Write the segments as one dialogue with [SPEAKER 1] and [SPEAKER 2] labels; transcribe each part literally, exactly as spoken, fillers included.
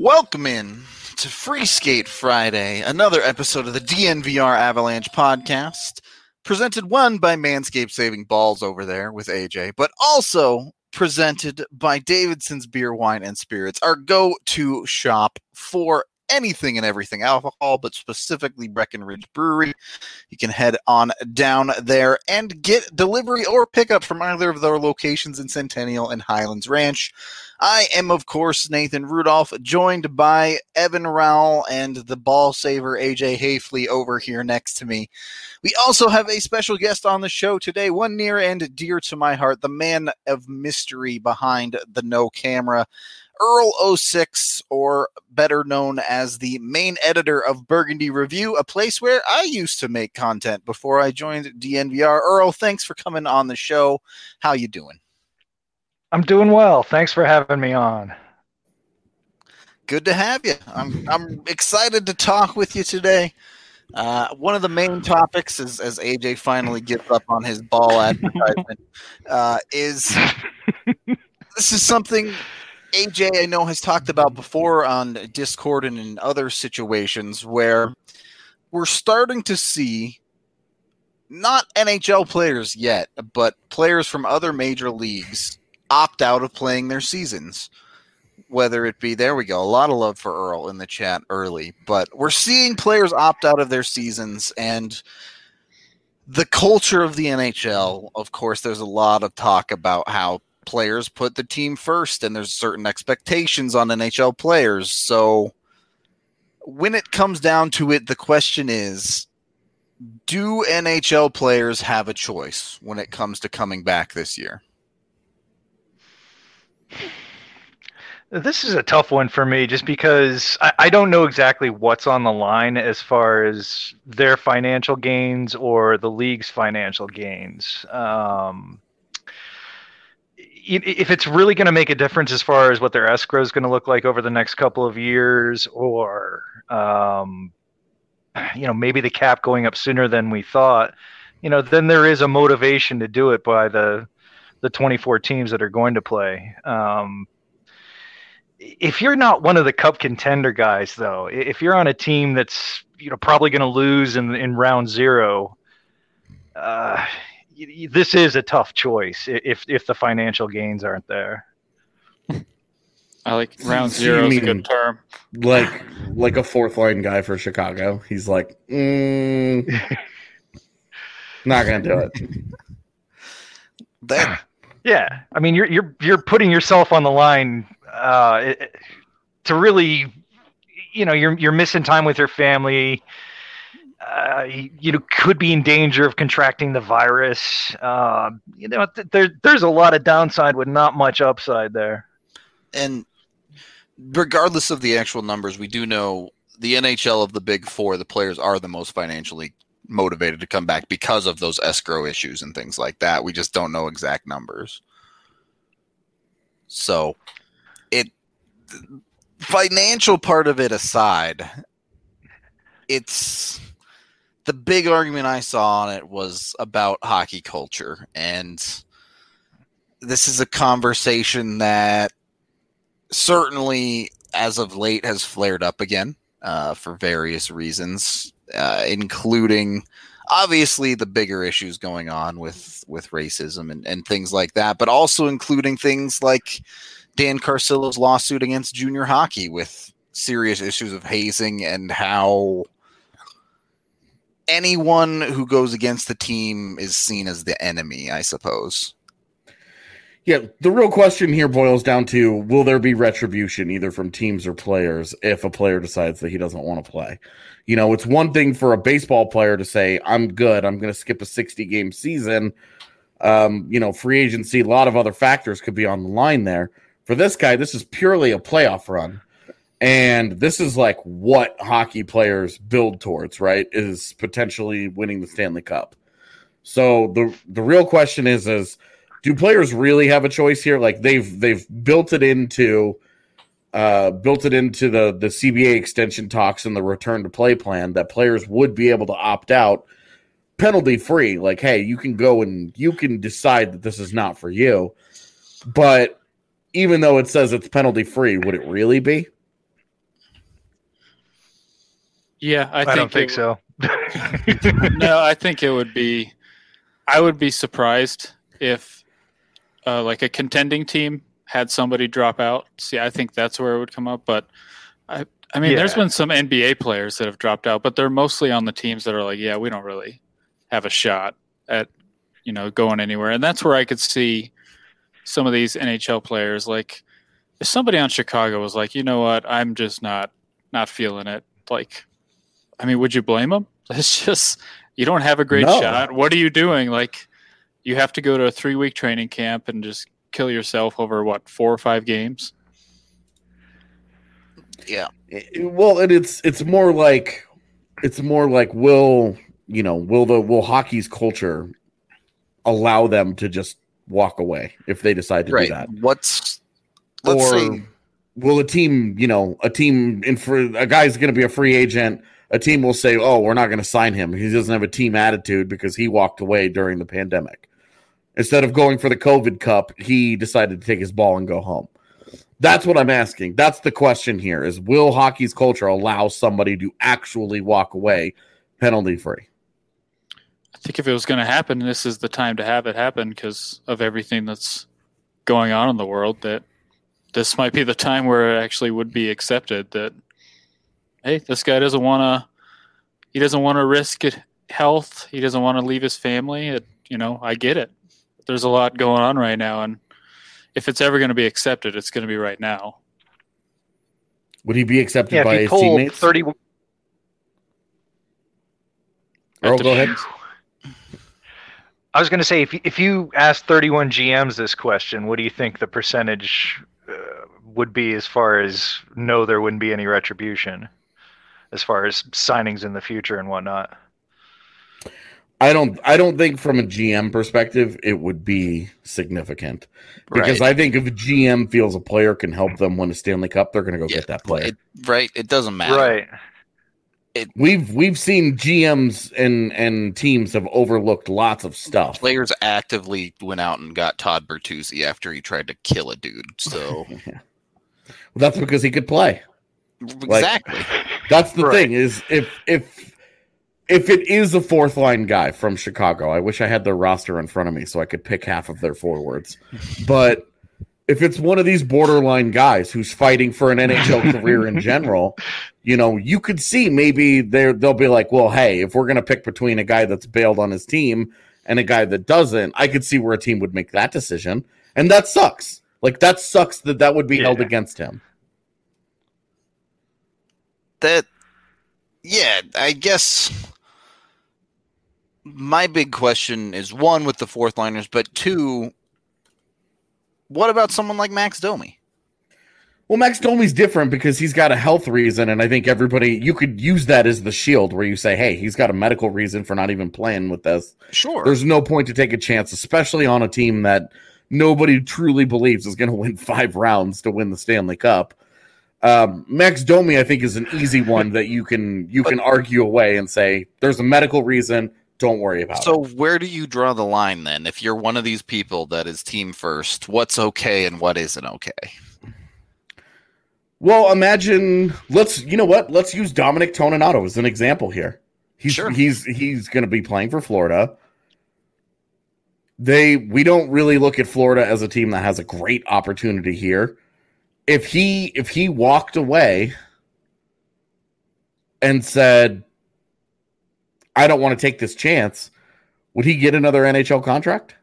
[SPEAKER 1] Welcome in to Free Skate Friday, another episode of the D N V R Avalanche podcast, presented one by Manscaped Saving Balls over there with A J, but also presented by Davidson's Beer, Wine, and Spirits, our go-to shop for anything and everything alcohol, but specifically Breckenridge Brewery. You can head on down there and get delivery or pickup from either of their locations in Centennial and Highlands Ranch. I am, of course, Nathan Rudolph, joined by Evan Rowell and the ball saver A J Hafley over here next to me. We also have a special guest on the show today, one near and dear to my heart, the man of mystery behind the no camera, Earl oh six, or better known as the main editor of Burgundy Review, a place where I used to make content before I joined D N V R. Earl, thanks for coming on the show. How you doing?
[SPEAKER 2] I'm doing well. Thanks for having me on.
[SPEAKER 1] Good to have you. I'm I'm excited to talk with you today. Uh, one of the main topics, is, as A J finally gets up on his ball advertisement, uh, is this is something A J I know has talked about before on Discord and in other situations where we're starting to see not N H L players yet, but players from other major leagues opt out of playing their seasons. Whether it be, there we go, a lot of love for Earl in the chat early, but we're seeing players opt out of their seasons, and the culture of the N H L, of course, there's a lot of talk about how players put the team first, and there's certain expectations on N H L players. So when it comes down to it, the question is, do N H L players have a choice when it comes to coming back this year?
[SPEAKER 2] This is a tough one for me just because I, I don't know exactly what's on the line as far as their financial gains or the league's financial gains. Um, if it's really going to make a difference as far as what their escrow is going to look like over the next couple of years, or, um, you know, maybe the cap going up sooner than we thought, you know, then there is a motivation to do it by the, the twenty-four teams that are going to play. Um, if you're not one of the cup contender guys, though, if you're on a team that's, you know, probably going to lose in, in round zero, uh, this is a tough choice if if the financial gains aren't there.
[SPEAKER 3] I like round zero is a good term.
[SPEAKER 4] Like like a fourth line guy for Chicago. He's like, mm, not gonna do it.
[SPEAKER 1] That
[SPEAKER 2] yeah, I mean, you're you're you're putting yourself on the line uh, to really, you know, you're you're missing time with your family. Uh, you, you know, could be in danger of contracting the virus. Uh, you know, th- there there's a lot of downside with not much upside there.
[SPEAKER 1] And regardless of the actual numbers, we do know the N H L of the Big Four, the players are the most financially motivated to come back because of those escrow issues and things like that. We just don't know exact numbers. So, it financial part of it aside, it's the big argument I saw on it was about hockey culture, and this is a conversation that certainly as of late has flared up again uh, for various reasons, uh, including obviously the bigger issues going on with, with racism and, and things like that, but also including things like Dan Carcillo's lawsuit against junior hockey with serious issues of hazing and how anyone who goes against the team is seen as the enemy, I suppose.
[SPEAKER 4] Yeah, the real question here boils down to, will there be retribution either from teams or players if a player decides that he doesn't want to play? You know, it's one thing for a baseball player to say, I'm good, I'm going to skip a sixty-game season. Um, you know, free agency, a lot of other factors could be on the line there. For this guy, this is purely a playoff run. And this is like what hockey players build towards, right? Is potentially winning the Stanley Cup. So the the real question is, is do players really have a choice here? Like they've they've built it into uh, built it into the the C B A extension talks and the return to play plan that players would be able to opt out penalty free. Like, hey, you can go and you can decide that this is not for you. But even though it says it's penalty free, would it really be?
[SPEAKER 3] Yeah, I,
[SPEAKER 2] I,
[SPEAKER 3] think
[SPEAKER 2] don't think
[SPEAKER 3] it,
[SPEAKER 2] so.
[SPEAKER 3] No, I think it would be. I would be surprised if, uh, like, a contending team had somebody drop out. See, I think that's where it would come up. But I, I mean,
[SPEAKER 2] Yeah.
[SPEAKER 3] there's been some N B A players that have dropped out, but they're mostly on the teams that are like, yeah, we don't really have a shot at, you know, going anywhere. And that's where I could see some of these N H L players, like, if somebody on Chicago was like, you know what, I'm just not not feeling it. Like, I mean, would you blame them? It's just, you don't have a great
[SPEAKER 4] No.
[SPEAKER 3] shot. What are you doing? Like, you have to go to a three week training camp and just kill yourself over what, four or five games?
[SPEAKER 1] Yeah.
[SPEAKER 4] It- well, and it's it's more like it's more like will you know will the will hockey's culture allow them to just walk away if they decide to
[SPEAKER 1] Right.
[SPEAKER 4] do that?
[SPEAKER 1] What's let's
[SPEAKER 4] Or
[SPEAKER 1] say
[SPEAKER 4] will a team, you know, a team in for a guy's going to be a free agent? A team will say, "Oh, we're not going to sign him. He doesn't have a team attitude because he walked away during the pandemic. Instead of going for the COVID Cup, he decided to take his ball and go home." That's what I'm asking. That's the question here: is will hockey's culture allow somebody to actually walk away penalty free?
[SPEAKER 3] I think if it was going to happen, this is the time to have it happen because of everything that's going on in the world. That this might be the time where it actually would be accepted that, hey, this guy doesn't want to, he doesn't want to risk it, health. He doesn't want to leave his family. It, you know, I get it. There's a lot going on right now. And if it's ever going to be accepted, it's going to be right now.
[SPEAKER 4] Would he be accepted
[SPEAKER 2] Yeah,
[SPEAKER 4] by
[SPEAKER 2] if he
[SPEAKER 4] his
[SPEAKER 2] told
[SPEAKER 4] teammates?
[SPEAKER 2] thirty,
[SPEAKER 4] Earl, go ahead.
[SPEAKER 2] I was going to say, if you, if you asked thirty-one G Ms this question, what do you think the percentage uh, would be as far as no, there wouldn't be any retribution, as far as signings in the future and whatnot?
[SPEAKER 4] I don't. I don't think from a G M perspective it would be significant because
[SPEAKER 1] Right.
[SPEAKER 4] I think if a G M feels a player can help them win a Stanley Cup, they're going to go
[SPEAKER 1] Yeah,
[SPEAKER 4] get that player.
[SPEAKER 1] it, right. It doesn't matter.
[SPEAKER 2] Right.
[SPEAKER 4] We've we've seen G Ms and and teams have overlooked lots of stuff.
[SPEAKER 1] Players actively went out and got Todd Bertuzzi after he tried to kill a dude. So
[SPEAKER 4] Well, that's because he could play.
[SPEAKER 1] exactly.
[SPEAKER 4] That's the
[SPEAKER 2] Right.
[SPEAKER 4] thing is if if if it is a fourth line guy from Chicago, I wish I had their roster in front of me so I could pick half of their forwards. But if it's one of these borderline guys who's fighting for an N H L career in general, you know, you could see maybe they're they'll be like, well, hey, if we're gonna pick between a guy that's bailed on his team and a guy that doesn't, I could see where a team would make that decision, and that sucks. Like that sucks that that would be
[SPEAKER 2] Yeah.
[SPEAKER 4] held against him.
[SPEAKER 1] That, yeah, I guess my big question is one with the fourth liners, but two, what about someone like Max Domi?
[SPEAKER 4] Well, Max Domi's different because he's got a health reason, and I think everybody you could use that as the shield where you say, hey, he's got a medical reason for not even playing with this.
[SPEAKER 1] Sure.
[SPEAKER 4] There's no point to take a chance, especially on a team that nobody truly believes is going to win five rounds to win the Stanley Cup. Um, Max Domi, I think, is an easy one that you can you can argue away and say there's a medical reason. Don't worry about
[SPEAKER 1] So
[SPEAKER 4] it.
[SPEAKER 1] where do you draw the line then? If you're one of these people that is team first, what's okay and what isn't okay?
[SPEAKER 4] Well, imagine let's you know what? Let's use Dominic Toninato as an example here. He's
[SPEAKER 1] Sure.
[SPEAKER 4] he's he's going to be playing for Florida. They we don't really look at Florida as a team that has a great opportunity here. If he if he walked away and said, I don't want to take this chance, would he get another N H L contract?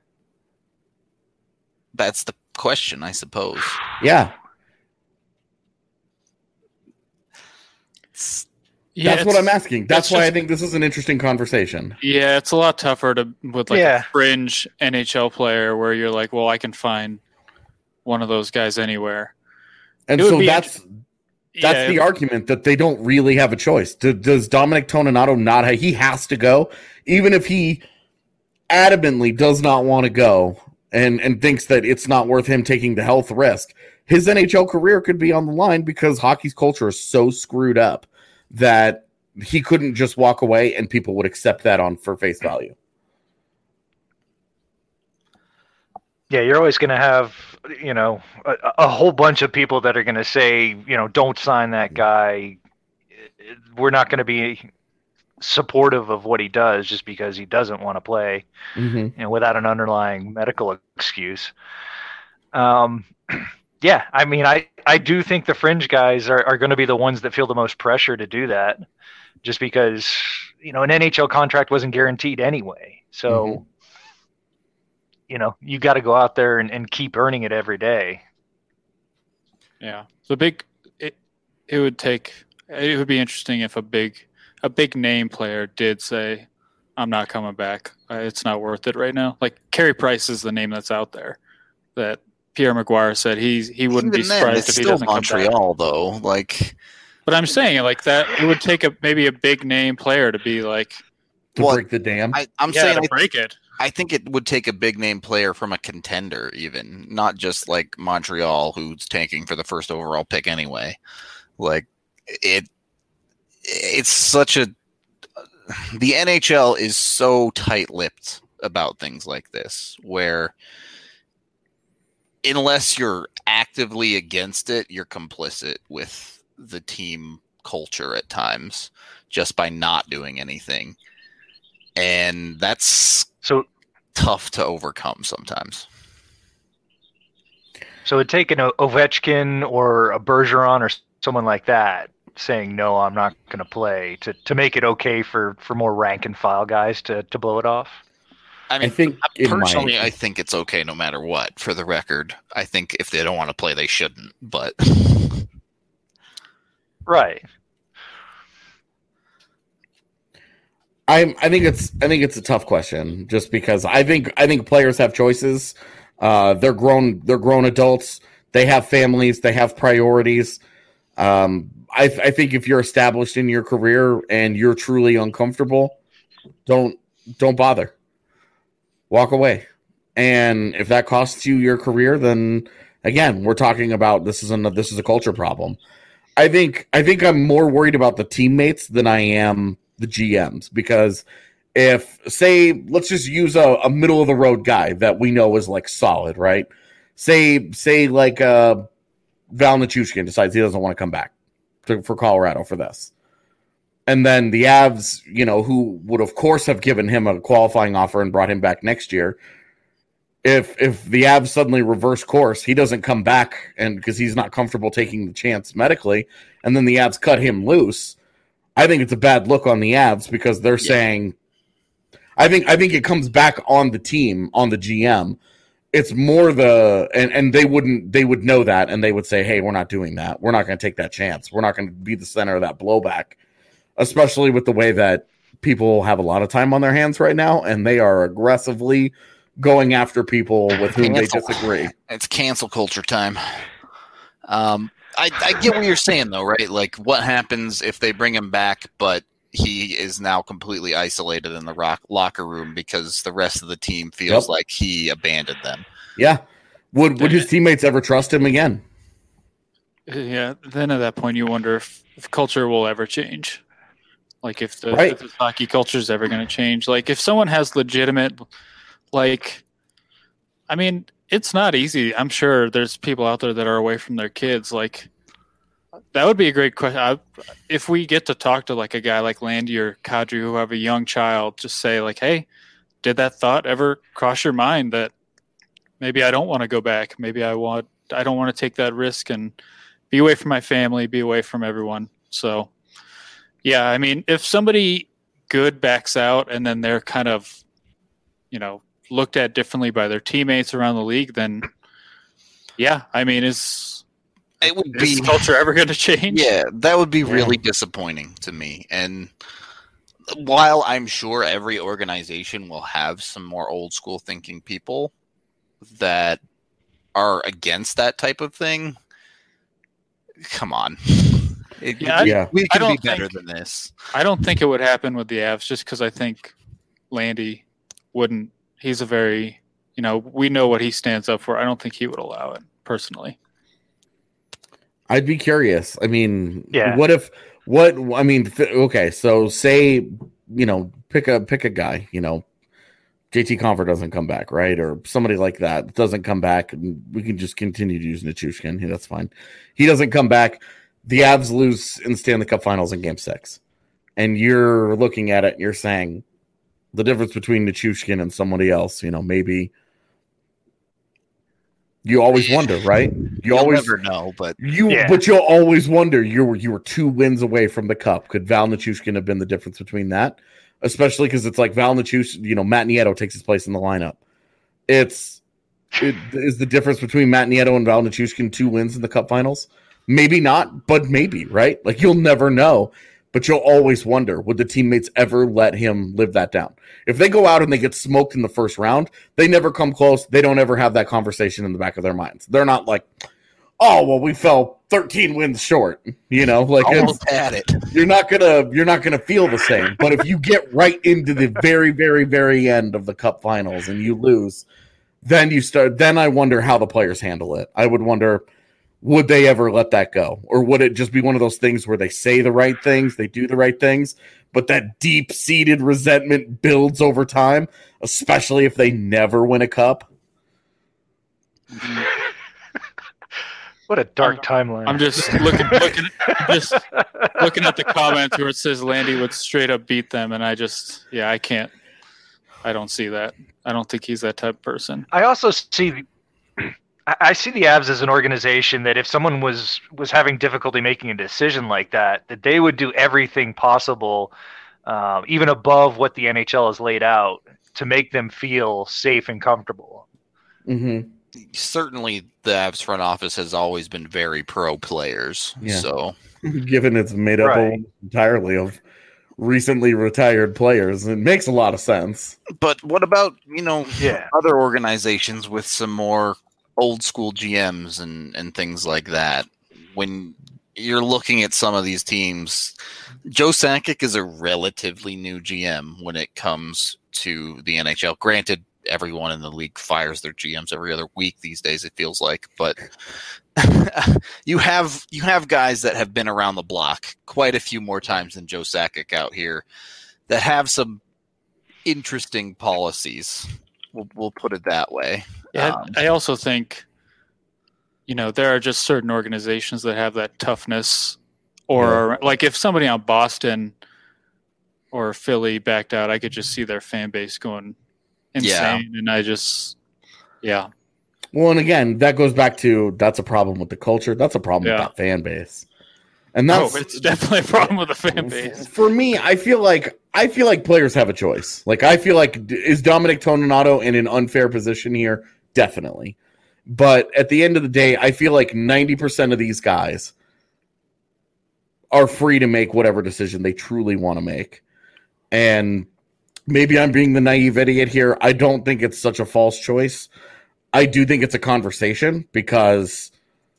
[SPEAKER 1] That's the question, I suppose.
[SPEAKER 4] Yeah.
[SPEAKER 3] Yeah,
[SPEAKER 4] That's what
[SPEAKER 3] it's-
[SPEAKER 4] I'm asking. That's
[SPEAKER 3] it's
[SPEAKER 4] why I
[SPEAKER 3] just-
[SPEAKER 4] think this is an interesting conversation.
[SPEAKER 3] Yeah, it's a lot tougher to with like
[SPEAKER 2] Yeah.
[SPEAKER 3] a fringe N H L player where you're like, well, I can find one of those guys anywhere.
[SPEAKER 4] And
[SPEAKER 3] It would
[SPEAKER 4] so
[SPEAKER 3] be
[SPEAKER 4] that's that's
[SPEAKER 3] Yeah,
[SPEAKER 4] the
[SPEAKER 3] it-
[SPEAKER 4] argument that they don't really have a choice. Do, does Dominic Toninato not have, he has to go, even if he adamantly does not want to go and, and thinks that it's not worth him taking the health risk. His N H L career could be on the line because hockey's culture is so screwed up that he couldn't just walk away and people would accept that on for face value.
[SPEAKER 2] Yeah, you're always going to have, you know, a, a whole bunch of people that are going to say, you know, don't sign that guy. we're not going to be supportive of what he does just because he doesn't want to play,
[SPEAKER 4] Mm-hmm.
[SPEAKER 2] you know, without an underlying medical excuse. Um, yeah, I mean, I, I do think the fringe guys are, are going to be the ones that feel the most pressure to do that, just because, you know, an N H L contract wasn't guaranteed anyway. So,
[SPEAKER 4] Mm-hmm.
[SPEAKER 2] you know, you got to go out there and, and keep earning it every day.
[SPEAKER 3] Yeah, the big it it would take it would be interesting if a big a big name player did say, "I'm not coming back. Uh, It's not worth it right now." Like Carey Price is the name that's out there that Pierre Maguire said he's he wouldn't
[SPEAKER 1] Even
[SPEAKER 3] be
[SPEAKER 1] then,
[SPEAKER 3] surprised
[SPEAKER 1] it's
[SPEAKER 3] if he
[SPEAKER 1] still
[SPEAKER 3] doesn't come back.
[SPEAKER 1] Montreal, though. Like,
[SPEAKER 3] But I'm saying like that it would take a maybe a big name player to be like,
[SPEAKER 4] To
[SPEAKER 1] Well,
[SPEAKER 4] break the dam.
[SPEAKER 1] I, I'm
[SPEAKER 3] yeah,
[SPEAKER 1] saying
[SPEAKER 3] to
[SPEAKER 1] I,
[SPEAKER 3] break it.
[SPEAKER 1] I think it would take a big name player from a contender, even not just like Montreal, who's tanking for the first overall pick anyway. Like it, it's such a. The N H L is so tight-lipped about things like this, where unless you're actively against it, you're complicit with the team culture at times just by not doing anything. And that's
[SPEAKER 2] So,
[SPEAKER 1] tough to overcome sometimes.
[SPEAKER 2] so it'd take an O- Ovechkin or a Bergeron or someone like that saying, no, I'm not going to play to, to make it okay for, for more rank and file guys to, to blow it off.
[SPEAKER 1] I mean,
[SPEAKER 4] I think it
[SPEAKER 1] personally,
[SPEAKER 4] might.
[SPEAKER 1] I think it's okay no matter what. For the record, I think if they don't want to play, they shouldn't. But
[SPEAKER 2] Right.
[SPEAKER 4] I I think it's I think it's a tough question just because I think I think players have choices. Uh, they're grown they're grown adults. They have families. They have priorities. Um, I I think if you're established in your career and you're truly uncomfortable, don't don't bother. Walk away. And if that costs you your career, then again, we're talking about this is a this is a culture problem. I think I think I'm more worried about the teammates than I am the G Ms, because if say let's just use a, a middle of the road guy that we know is like solid, right? Say say like uh, Val Nichushkin decides he doesn't want to come back to, for Colorado for this, and then the Avs, you know, who would of course have given him a qualifying offer and brought him back next year. If if the Avs suddenly reverse course, he doesn't come back, and because he's not comfortable taking the chance medically, and then the Avs cut him loose. I think it's a bad look on the Avs because they're
[SPEAKER 1] Yeah.
[SPEAKER 4] saying, I think I think it comes back on the team, on the G M. It's more the and, and they wouldn't they would know that, and they would say, hey, we're not doing that. We're not going to take that chance. We're not going to be the center of that blowback, especially with the way that people have a lot of time on their hands right now, and they are aggressively going after people with whom they
[SPEAKER 1] Cancel.
[SPEAKER 4] disagree.
[SPEAKER 1] It's cancel culture time. Um, I, I get what you're saying, though, right? Like, what happens if they bring him back, but he is now completely isolated in the rock locker room because the rest of the team feels
[SPEAKER 4] Yep.
[SPEAKER 1] like he abandoned them?
[SPEAKER 4] Yeah. Would would his teammates ever trust him again?
[SPEAKER 3] Yeah, then at that point you wonder if, if culture will ever change. Like if the,
[SPEAKER 4] Right.
[SPEAKER 3] if the hockey culture is ever going to change. Like if someone has legitimate, like, I mean, it's not easy. I'm sure there's people out there that are away from their kids. Like that would be a great question. I, if we get to talk to like a guy like Landy or Kadri who have a young child, just say like, hey, did that thought ever cross your mind that maybe I don't want to go back? Maybe I want, I don't want to take that risk and be away from my family, be away from everyone. So, yeah, I mean, if somebody good backs out and then they're kind of, you know, looked at differently by their teammates around the league, then, yeah, I mean, is,
[SPEAKER 1] It would
[SPEAKER 3] is
[SPEAKER 1] be
[SPEAKER 3] culture ever going to change?
[SPEAKER 1] Yeah, that would be
[SPEAKER 4] Yeah.
[SPEAKER 1] really disappointing to me. And while I'm sure every organization will have some more old school thinking people that are against that type of thing, come on. It,
[SPEAKER 3] Yeah, I-
[SPEAKER 1] we,
[SPEAKER 4] Yeah.
[SPEAKER 1] we
[SPEAKER 3] I
[SPEAKER 1] can be
[SPEAKER 3] don't
[SPEAKER 1] better
[SPEAKER 3] think-
[SPEAKER 1] than this.
[SPEAKER 3] I don't think it would happen with the Avs just because I think Landy wouldn't. He's a very, you know, we know what he stands up for. I don't think he would allow it personally.
[SPEAKER 4] I'd be curious. I mean,
[SPEAKER 2] Yeah.
[SPEAKER 4] what if what I mean, th- okay, so say, you know, pick a pick a guy, you know, J T Confer doesn't come back, right? Or somebody like that doesn't come back. And we can just continue to use Nichushkin. Yeah, that's fine. He doesn't come back. the Avs lose in the Stanley Cup Finals in Game Six, and you're looking at it and you're saying the difference between Nichushkin and somebody else, you know, maybe you always wonder, right? You
[SPEAKER 1] You'll
[SPEAKER 4] always
[SPEAKER 1] never know, but
[SPEAKER 4] you,
[SPEAKER 2] Yeah.
[SPEAKER 4] but you'll always wonder. You were you were two wins away from the cup. Could Val Nichushkin have been the difference between that? Especially because it's like Val Nichushkin, you know, Matt Nieto takes his place in the lineup. It's it is the difference between Matt Nieto and Val Nichushkin two wins in the cup finals. Maybe not, but maybe, right? Like you'll never know. But you'll always wonder, would the teammates ever let him live that down? If they go out and they get smoked in the first round, they never come close. They don't ever have that conversation in the back of their minds. They're not like, oh, well, we fell thirteen wins short. You know, like
[SPEAKER 1] almost
[SPEAKER 4] it's,
[SPEAKER 1] had it.
[SPEAKER 4] you're not gonna you're not gonna feel the same. But if you get right into the very, very, very end of the cup finals and you lose, then you start then I wonder how the players handle it. I would wonder, would they ever let that go? Or would it just be one of those things where they say the right things, they do the right things, but that deep-seated resentment builds over time, especially if they never win a cup?
[SPEAKER 2] What a dark timeline.
[SPEAKER 3] I'm just looking, looking, just looking at the comments where it says Landy would straight up beat them, and I just, yeah, I can't. I don't see that. I don't think he's that type of person.
[SPEAKER 2] I also see, I I see the Avs as an organization that if someone was was having difficulty making a decision like that, that they would do everything possible, uh, even above what the N H L has laid out, to make them feel safe and comfortable.
[SPEAKER 4] Mm-hmm.
[SPEAKER 1] Certainly, the Avs front office has always been very pro players.
[SPEAKER 4] Yeah.
[SPEAKER 1] So,
[SPEAKER 4] Given it's made up
[SPEAKER 2] Right.
[SPEAKER 4] almost entirely of recently retired players, it makes a lot of sense.
[SPEAKER 1] but what about you know
[SPEAKER 2] Yeah.
[SPEAKER 1] other organizations with some more old school G Ms and and things like that? When you're looking at some of these teams, Joe Sakic is a relatively new G M when it comes to the N H L. Granted, everyone in the league fires their G Ms every other week these days, it feels like, but you have you have guys that have been around the block quite a few more times than Joe Sakic out here that have some interesting policies. We'll, we'll put it that way.
[SPEAKER 3] Yeah,
[SPEAKER 1] Um,
[SPEAKER 3] I also think, you know, there are just certain organizations that have that toughness, or like if somebody on Boston or Philly backed out, I could just see their fan base going insane, and I just, yeah,
[SPEAKER 4] Well, and again, that goes back to that's a problem with the culture. That's a problem
[SPEAKER 3] Yeah.
[SPEAKER 4] with that fan base. And that's
[SPEAKER 3] oh, it's definitely a problem with the fan base.
[SPEAKER 4] For me, I feel like I feel like players have a choice. Like I feel like is Dominic Toninato in an unfair position here? Definitely. But at the end of the day, I feel like ninety percent of these guys are free to make whatever decision they truly want to make. And maybe I'm being the naive idiot here. I don't think it's such a false choice. I do think it's a conversation because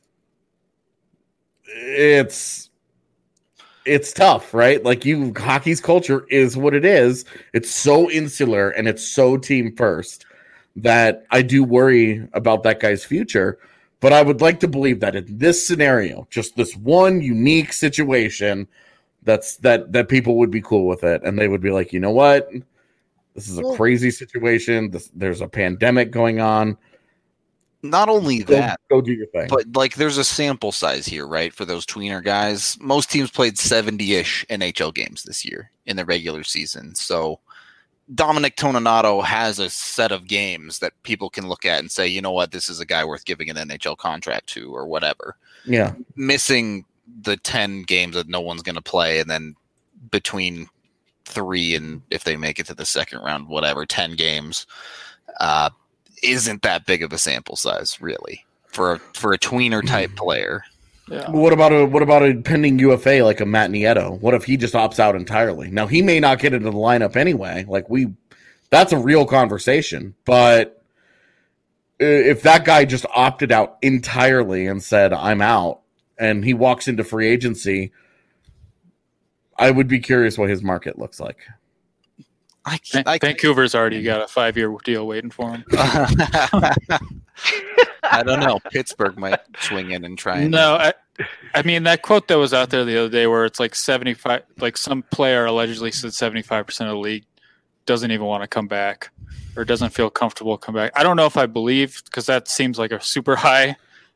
[SPEAKER 4] it's it's tough, right? Like you hockey's culture is what it is. It's so insular and it's so team first that I do worry about that guy's future. But I would like to believe that in this scenario, just this one unique situation, that's that that people would be cool with it and they would be like, you know what? This is a
[SPEAKER 1] Well-
[SPEAKER 4] crazy situation. This, there's a pandemic going on.
[SPEAKER 1] not only
[SPEAKER 4] Go,
[SPEAKER 1] that,
[SPEAKER 4] go do your thing.
[SPEAKER 1] but like there's a sample size here, right? For those tweener guys, most teams played seventy-ish N H L games this year in the regular season. So Dominic Toninato has a set of games that people can look at and say, you know what, this is a guy worth giving an N H L contract to or whatever.
[SPEAKER 4] Yeah.
[SPEAKER 1] Missing the ten games that no one's going to play, and then between three and if they make it to the second round, whatever, ten games, uh, isn't that big of a sample size, really, for a, for a tweener type player.
[SPEAKER 3] Yeah.
[SPEAKER 4] What about a what about a pending U F A like a Matt Nieto? What if he just opts out entirely? Now he may not get into the lineup anyway. Like we, that's a real conversation. But if that guy just opted out entirely and said I'm out, and he walks into free agency, I would be curious what his market looks like.
[SPEAKER 1] I,
[SPEAKER 3] Van-
[SPEAKER 1] I,
[SPEAKER 3] Vancouver's already got a five-year deal waiting for him.
[SPEAKER 1] I don't know. Pittsburgh might swing in and try. And,
[SPEAKER 3] No, I, I mean that quote that was out there the other day, where it's like seventy-five, like some player allegedly said seventy-five percent of the league doesn't even want to come back or doesn't feel comfortable come back. I don't know if I believe, because that seems like a super high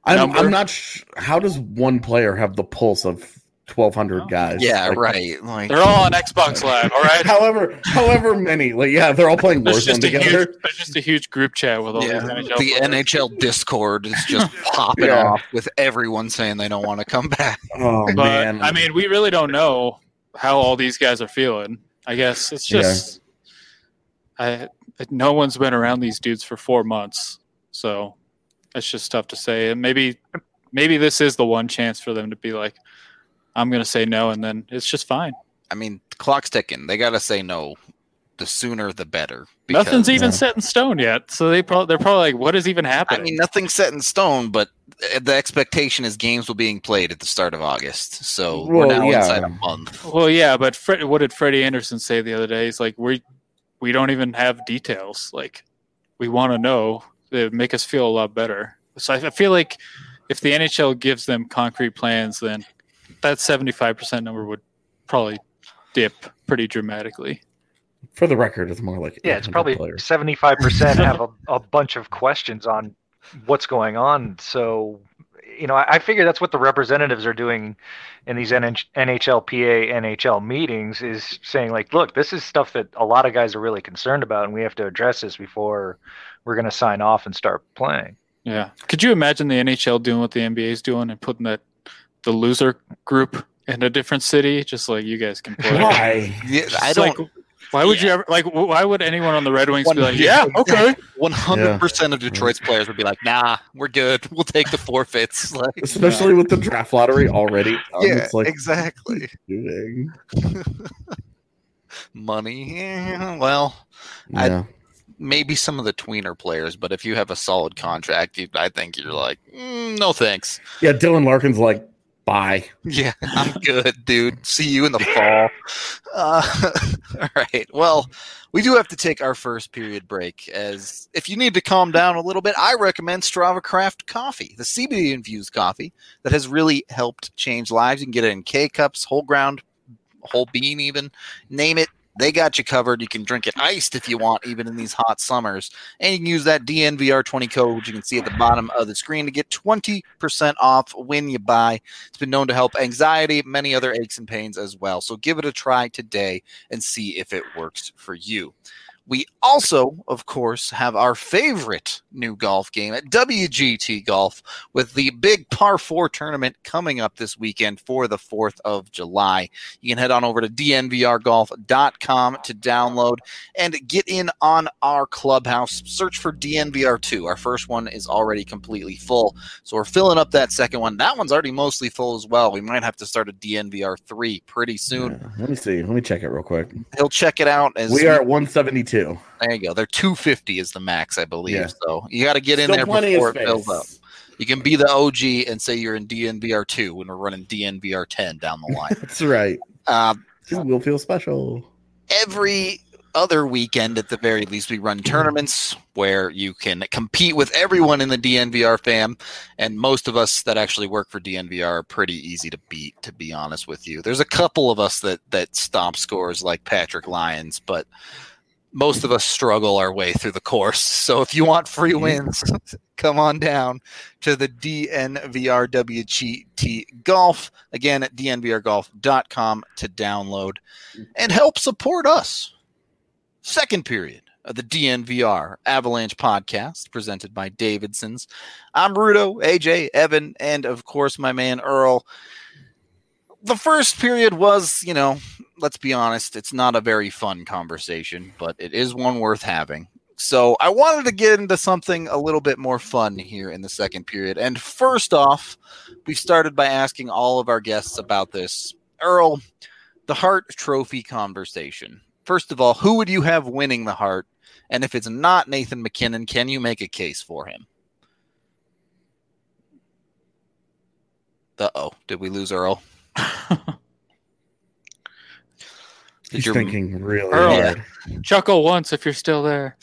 [SPEAKER 4] I'm,
[SPEAKER 3] number.
[SPEAKER 4] I'm not. Sh- how does one player have the pulse of twelve hundred
[SPEAKER 3] Oh.
[SPEAKER 4] guys?
[SPEAKER 1] Yeah,
[SPEAKER 4] Like,
[SPEAKER 1] right. Like,
[SPEAKER 3] They're all on Xbox Live, all right?
[SPEAKER 4] However, however many, like yeah, they're all playing
[SPEAKER 3] There's
[SPEAKER 4] Warzone
[SPEAKER 3] just, a
[SPEAKER 4] together.
[SPEAKER 3] huge, there's just a huge group chat with all
[SPEAKER 1] yeah,
[SPEAKER 3] these N H L
[SPEAKER 1] the
[SPEAKER 3] players.
[SPEAKER 1] N H L Discord is just popping
[SPEAKER 4] Yeah.
[SPEAKER 1] off with everyone saying they don't want to come back.
[SPEAKER 4] Oh
[SPEAKER 3] But,
[SPEAKER 4] man,
[SPEAKER 3] I mean, we really don't know how all these guys are feeling. I guess it's just I no one's been around these dudes for four months, so it's just tough to say. And maybe maybe this is the one chance for them to be like, I'm going to say no, and then it's just fine.
[SPEAKER 1] I mean, the clock's ticking. They got to say no. The sooner, the better. because-
[SPEAKER 3] Nothing's even
[SPEAKER 4] Yeah.
[SPEAKER 3] set in stone yet, so they probably they're probably like, what is even
[SPEAKER 1] I
[SPEAKER 3] happening?
[SPEAKER 1] mean, nothing's set in stone, but the expectation is games will be being played at the start of August. So we're
[SPEAKER 4] Well,
[SPEAKER 1] now
[SPEAKER 4] yeah.
[SPEAKER 1] inside a month.
[SPEAKER 3] Well, yeah, but Fred, what did Freddie Anderson say the other day? He's like, we we don't even have details. Like, we want to know. It would make us feel a lot better. So I, I feel like if the N H L gives them concrete plans, then that seventy-five percent number would probably dip pretty dramatically.
[SPEAKER 4] for the record, it's more like
[SPEAKER 2] Yeah, it's
[SPEAKER 4] eight hundred
[SPEAKER 2] probably
[SPEAKER 4] players.
[SPEAKER 2] seventy-five percent have a, a bunch of questions on what's going on. So, you know, I, I figure that's what the representatives are doing in these N H L P A, N H L meetings is saying, like, look, this is stuff that a lot of guys are really concerned about, and we have to address this before we're going to sign off and start playing.
[SPEAKER 3] Yeah. Could you imagine the N H L doing what the N B A is doing and putting that the loser group in a different city, just like you guys can play?
[SPEAKER 4] Why?
[SPEAKER 1] Yeah, I
[SPEAKER 3] It's
[SPEAKER 1] don't.
[SPEAKER 3] like, why would you ever like? Why would anyone on the Red Wings
[SPEAKER 1] One-
[SPEAKER 3] be like,
[SPEAKER 1] yeah,
[SPEAKER 3] yeah, okay?
[SPEAKER 1] One hundred percent of Detroit's players would be like, "Nah, we're good. We'll take the forfeits." Like,
[SPEAKER 4] Especially with the draft lottery already done.
[SPEAKER 1] yeah,
[SPEAKER 4] It's like
[SPEAKER 1] exactly.
[SPEAKER 4] doing.
[SPEAKER 1] Money. Yeah, well, I-
[SPEAKER 4] Yeah.
[SPEAKER 1] maybe some of the tweener players, but if you have a solid contract, you, I think you're like, mm, no thanks.
[SPEAKER 4] yeah, Dylan Larkin's like, bye.
[SPEAKER 1] Yeah, I'm good, dude. See you in the fall. Uh, all right. Well, we do have to take our first period break. As if you need to calm down a little bit, I recommend Strava Craft Coffee, the C B D infused coffee that has really helped change lives. You can get it in K cups, whole ground, whole bean, even name it. They got you covered. You can drink it iced if you want, even in these hot summers. And you can use that D N V R twenty code, which you can see at the bottom of the screen, to get twenty percent off when you buy. It's been known to help anxiety, many other aches and pains as well. So give it a try today and see if it works for you. We also, of course, have our favorite new golf game at W G T Golf with the big Par four tournament coming up this weekend for the fourth of July. You can head on over to D N V R golf dot com to download and get in on our clubhouse. Search for D N V R two. Our first one is already completely full, so we're filling up that second one. That one's already mostly full as well. We might have to start a D N V R three pretty soon.
[SPEAKER 4] Yeah. Let me see. Let me check it real quick.
[SPEAKER 1] He'll check it out. As
[SPEAKER 4] We are at one seventy-two.
[SPEAKER 1] There you go. They're two fifty is the max, I believe.
[SPEAKER 4] Yeah.
[SPEAKER 1] So you got to get in
[SPEAKER 4] Still
[SPEAKER 1] there
[SPEAKER 4] plenty
[SPEAKER 1] before
[SPEAKER 4] of
[SPEAKER 1] it fills up.
[SPEAKER 4] space.
[SPEAKER 1] You can be the O G and say you're in D N V R two when we're running D N V R ten down the line.
[SPEAKER 4] That's right.
[SPEAKER 1] uh,
[SPEAKER 4] You will feel special.
[SPEAKER 1] every other weekend, at the very least, we run tournaments where you can compete with everyone in the D N V R fam. And most of us that actually work for D N V R are pretty easy to beat, to be honest with you. There's a couple of us that, that stomp scores like Patrick Lyons, but most of us struggle our way through the course. So if you want free wins, come on down to the D N V R W G T Golf. Again, at D N V R golf dot com to download and help support us. Second period of the D N V R Avalanche podcast presented by Davidson's. I'm Rudo, A J, Evan, and of course my man Earl. The first period was, you know, let's be honest, it's not a very fun conversation, but it is one worth having. So I wanted to get into something a little bit more fun here in the second period. And first off, we started by asking all of our guests about this. Earl, the Hart Trophy conversation. First of all, who would you have winning the Hart? And if it's not Nathan MacKinnon, can you make a case for him? Uh-oh, did we lose Earl?
[SPEAKER 4] He's
[SPEAKER 1] your-
[SPEAKER 4] thinking really
[SPEAKER 3] Earl.
[SPEAKER 4] hard.
[SPEAKER 3] Chuckle once if you're still there.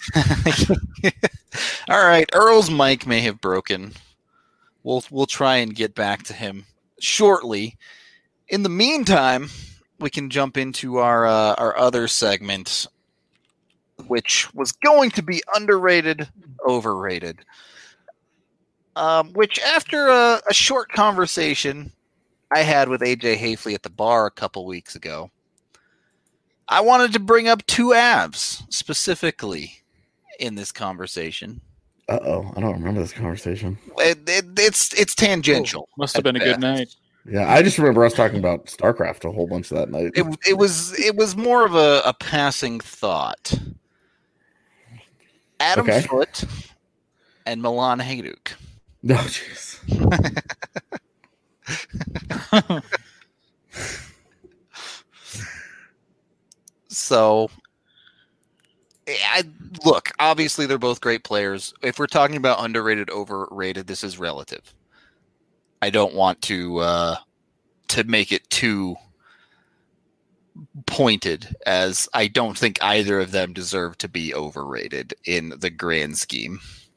[SPEAKER 1] All right, Earl's mic may have broken. We'll we'll try and get back to him shortly. In the meantime, we can jump into our uh, our other segment, which was going to be underrated, overrated. Um, which, after a, a short conversation I had with A J Hafley at the bar a couple weeks ago, I wanted to bring up two Avs specifically in this conversation.
[SPEAKER 4] Uh oh, I don't remember this conversation.
[SPEAKER 1] It, it, it's it's tangential.
[SPEAKER 3] Oh, must have been a good night.
[SPEAKER 4] Yeah, I just remember us talking about StarCraft a whole bunch that night.
[SPEAKER 1] It, it was it was more of a, a passing thought. Adam
[SPEAKER 4] Okay.
[SPEAKER 1] Foote and Milan Hajduk.
[SPEAKER 4] No, jeez.
[SPEAKER 1] So, I look. Obviously, they're both great players. If we're talking about underrated, overrated, this is relative. I don't want to uh, to make it too pointed, as I don't think either of them deserve to be overrated in the grand scheme.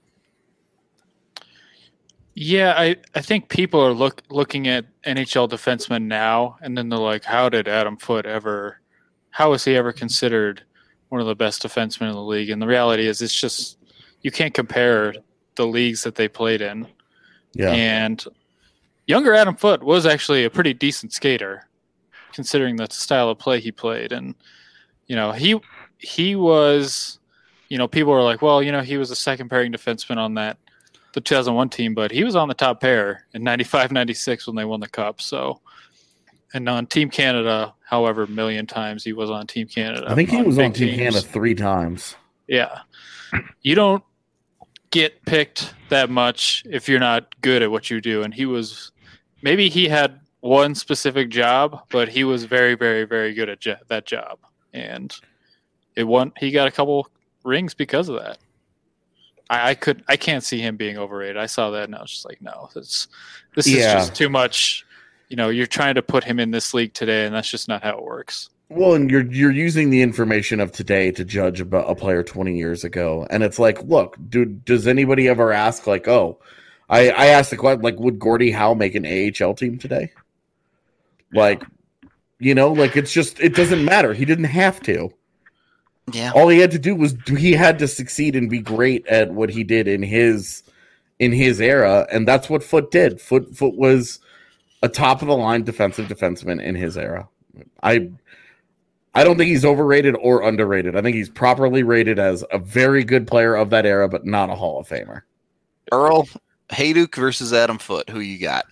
[SPEAKER 3] Yeah, I, I think people are look looking at N H L defensemen now, and then they're like, how did Adam Foote ever, how was he ever considered one of the best defensemen in the league? And the reality is, it's just, you can't compare the leagues that they played in.
[SPEAKER 4] Yeah.
[SPEAKER 3] And younger Adam Foote was actually a pretty decent skater, considering the style of play he played. And, you know, he he was, you know, people were like, well, you know, he was a second pairing defenseman on that, the two thousand one team, but he was on the top pair in ninety-five ninety-six when they won the cup. So, and on Team Canada, however, a million times he was on Team Canada.
[SPEAKER 4] I think he was on Team
[SPEAKER 3] teams.
[SPEAKER 4] Canada three times.
[SPEAKER 3] Yeah. You don't get picked that much if you're not good at what you do. And he was, maybe he had one specific job, but he was very, very, very good at jo- that job. And it won, he got a couple rings because of that. I, I could, I can't see him being overrated. I saw that and I was just like, no, this, this
[SPEAKER 4] Yeah.
[SPEAKER 3] is just too much. You know, you're trying to put him in this league today, and that's just not how it works.
[SPEAKER 4] Well, and you're you're using the information of today to judge about a player twenty years ago, and it's like, look, dude, does anybody ever ask like, oh, I I asked the question like, would Gordie Howe make an A H L team today? Like, you know, like it's just it doesn't matter. He didn't have to.
[SPEAKER 1] Yeah.
[SPEAKER 4] All he had to do was he had to succeed and be great at what he did in his in his era, and that's what Foote did. Foote Foote was a top of the line defensive defenseman in his era. I I don't think he's overrated or underrated. I think he's properly rated as a very good player of that era, but not a Hall of Famer.
[SPEAKER 1] Earl, Hajduk versus Adam Foote. Who you got?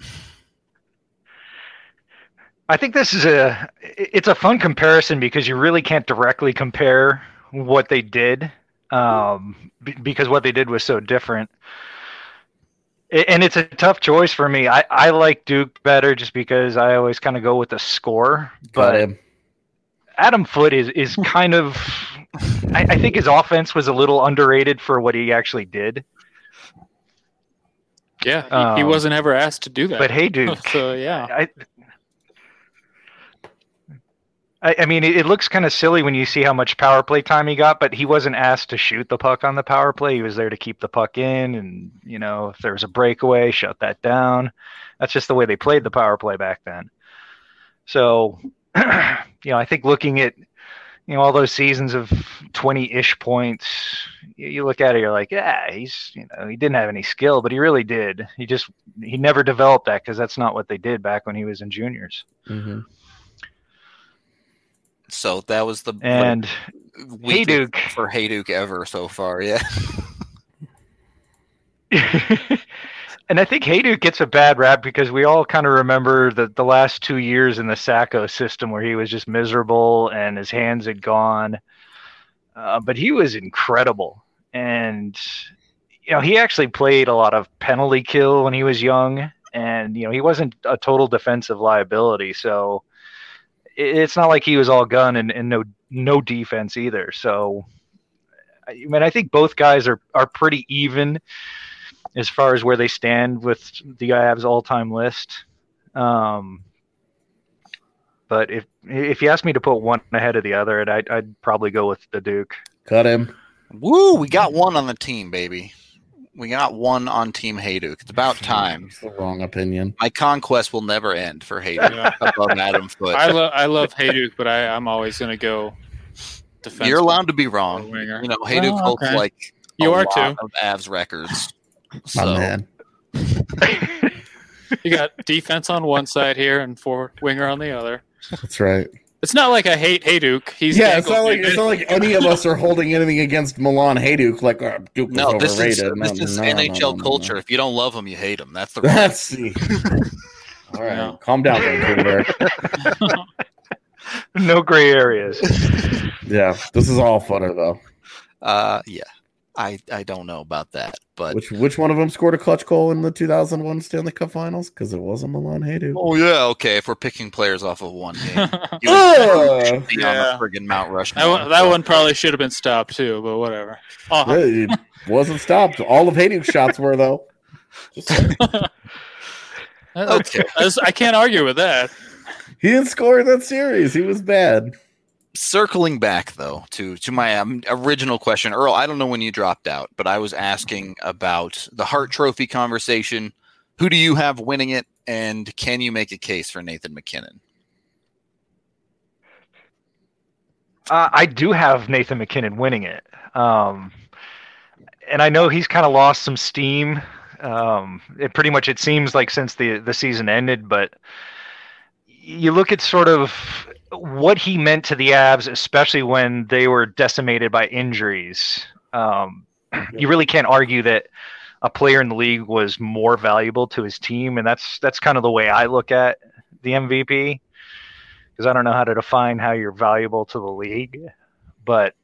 [SPEAKER 2] I think this is a it's a fun comparison because you really can't directly compare what they did um, b- because what they did was so different. And it's a tough choice for me. I, I like Duke better just because I always kind of go with the score.
[SPEAKER 4] Got
[SPEAKER 2] But
[SPEAKER 4] him.
[SPEAKER 2] Adam Foote is, is kind of I, I think his offense was a little underrated for what he actually did.
[SPEAKER 3] Yeah, he,
[SPEAKER 2] Um,
[SPEAKER 3] he wasn't ever asked to do that.
[SPEAKER 2] But hey, Duke.
[SPEAKER 3] So, yeah.
[SPEAKER 2] I, I, I mean, it, it looks kind of silly when you see how much power play time he got, but he wasn't asked to shoot the puck on the power play. He was there to keep the puck in, and you know, if there was a breakaway, shut that down. That's just the way they played the power play back then. So, you know, I think looking at you know all those seasons of twenty-ish points, you, you look at it, you're like, yeah, he's you know he didn't have any skill, but he really did. He just he never developed that because that's not what they did back when he was in juniors.
[SPEAKER 4] Mm-hmm.
[SPEAKER 1] So that was the
[SPEAKER 2] And
[SPEAKER 1] weakest
[SPEAKER 2] Hajduk.
[SPEAKER 1] for Hajduk ever so far. Yeah.
[SPEAKER 2] and I think Hajduk gets a bad rap because we all kind of remember the, the last two years in the Sacco system where he was just miserable and his hands had gone. Uh, but he was incredible. And, you know, he actually played a lot of penalty kill when he was young. And, you know, he wasn't a total defensive liability. So it, it's not like he was all gun and, and no no defense either. So, I mean, I think both guys are, are pretty even as far as where they stand with the Avs all-time list. Um, but if if you ask me to put one ahead of the other, I'd, I'd probably go with the Duke.
[SPEAKER 4] Cut him.
[SPEAKER 1] Woo! We got one on the team, baby. We got one on Team Hajduk. It's about time.
[SPEAKER 4] It's the wrong opinion.
[SPEAKER 1] My conquest will never end for Hajduk
[SPEAKER 3] Yeah.
[SPEAKER 1] above Adam Foote.
[SPEAKER 3] I, lo- I love Hajduk, but I, I'm always going to go defenseman.
[SPEAKER 1] You're allowed to be wrong.
[SPEAKER 3] Or winger.
[SPEAKER 1] You know, Hajduk
[SPEAKER 3] Oh,
[SPEAKER 1] holds
[SPEAKER 3] okay.
[SPEAKER 1] like
[SPEAKER 3] You
[SPEAKER 1] a
[SPEAKER 3] are
[SPEAKER 1] lot
[SPEAKER 3] too.
[SPEAKER 1] of Avs records.
[SPEAKER 4] My
[SPEAKER 1] So
[SPEAKER 4] man.
[SPEAKER 3] You got defense on one side here and four winger on the other.
[SPEAKER 4] That's right.
[SPEAKER 3] It's not like I hate Hayduk. He's
[SPEAKER 4] yeah, it's not like it's not like any of us are holding anything against Milan Hayduk. Like oh, Duke was
[SPEAKER 1] No, this
[SPEAKER 4] overrated.
[SPEAKER 1] is
[SPEAKER 4] no,
[SPEAKER 1] this is
[SPEAKER 4] no,
[SPEAKER 1] N H L
[SPEAKER 4] no, no,
[SPEAKER 1] culture.
[SPEAKER 4] no.
[SPEAKER 1] If you don't love him, you hate him. That's the
[SPEAKER 4] That's the. All right,
[SPEAKER 3] No.
[SPEAKER 4] calm down, Vancouver.
[SPEAKER 2] No gray areas.
[SPEAKER 4] Yeah, this is all funner though.
[SPEAKER 1] Uh, yeah, I I don't know about that, but
[SPEAKER 4] Which which one of them scored a clutch goal in the two thousand one Stanley Cup Finals? Because it wasn't Milan Hayduk.
[SPEAKER 1] oh yeah, okay. If we're picking players off of one game, you
[SPEAKER 4] Uh,
[SPEAKER 1] would be
[SPEAKER 3] Yeah.
[SPEAKER 1] on the friggin' Mount Rushmore.
[SPEAKER 3] that one, that one probably should have been stopped too, but whatever. Oh,
[SPEAKER 4] it wasn't stopped. All of Hayduk's shots were though. Just saying.
[SPEAKER 1] Okay.
[SPEAKER 3] I, I can't argue with that.
[SPEAKER 4] He didn't score in that series. He was bad.
[SPEAKER 1] Circling back though to to my um, original question, Earl. I don't know when you dropped out, but I was asking about the Hart Trophy conversation. Who do you have winning it, and can you make a case for Nathan MacKinnon?
[SPEAKER 2] Uh, I do have Nathan MacKinnon winning it. Um, and I know he's kind of lost some steam. Um, it pretty much, it seems like since the, the season ended, but you look at sort of what he meant to the Avs, especially when they were decimated by injuries. Um, you really can't argue that a player in the league was more valuable to his team. And that's, that's kind of the way I look at the M V P. Because I don't know how to define how you're valuable to the league, but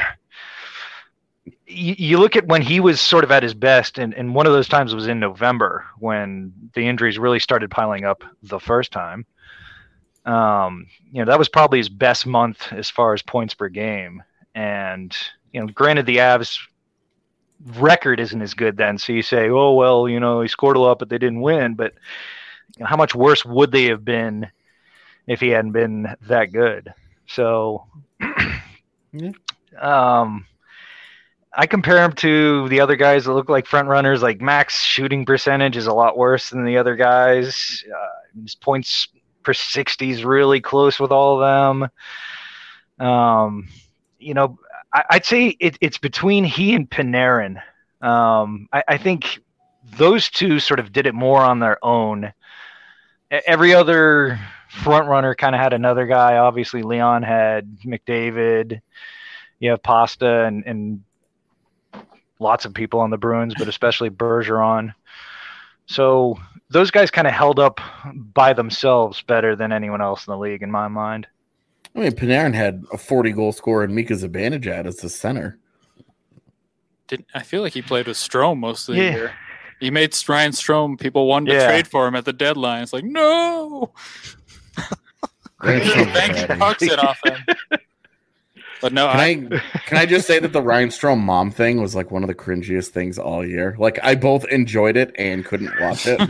[SPEAKER 2] you, you look at when he was sort of at his best, and, and one of those times was in November when the injuries really started piling up the first time. Um, you know, that was probably his best month as far as points per game. And, you know, granted the Avs record isn't as good then. So you say, oh, well, you know, he scored a lot, but they didn't win. But you know, how much worse would they have been if he hadn't been that good? So,
[SPEAKER 4] Yeah.
[SPEAKER 2] um, I compare him to the other guys that look like front runners. Like Mac's shooting percentage is a lot worse than the other guys. Uh, his points per sixty is really close with all of them. Um, you know, I, I'd say it, it's between he and Panarin. Um, I, I think those two sort of did it more on their own. Every other front runner kind of had another guy. Obviously, Leon had McDavid. You have Pasta and, and lots of people on the Bruins, but especially Bergeron. So those guys kind of held up by themselves better than anyone else in the league, in my mind.
[SPEAKER 4] I mean, Panarin had a forty-goal scorer and Mika Zibanejad as the center.
[SPEAKER 3] Didn't I feel like he played with Strome most of the
[SPEAKER 2] Yeah.
[SPEAKER 3] year? He made Ryan Strome. People wanted to
[SPEAKER 2] Yeah.
[SPEAKER 3] trade for him at the deadline. It's like no.
[SPEAKER 4] Ryan
[SPEAKER 3] Just
[SPEAKER 4] Strome's
[SPEAKER 3] banking
[SPEAKER 4] bad.
[SPEAKER 3] pucks in off him. But no,
[SPEAKER 4] Can
[SPEAKER 3] I,
[SPEAKER 4] I can I just say that the Ryan Strome mom thing was like one of the cringiest things all year. Like I both enjoyed it and couldn't watch it.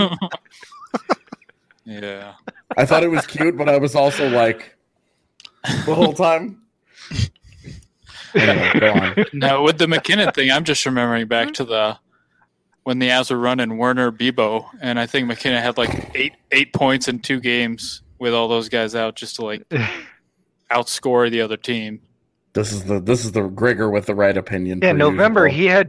[SPEAKER 3] yeah.
[SPEAKER 4] I thought it was cute, but I was also like the whole time. Anyway, go on.
[SPEAKER 3] No, with the McKinnon thing, I'm just remembering back to the when the Avs were running Werner Bebo, and I think McKinnon had like eight eight points in two games with all those guys out, just to like outscore the other team.
[SPEAKER 4] This is the this is the Gregor with the right opinion.
[SPEAKER 2] Yeah,
[SPEAKER 4] per
[SPEAKER 2] November
[SPEAKER 4] usual.
[SPEAKER 2] he had.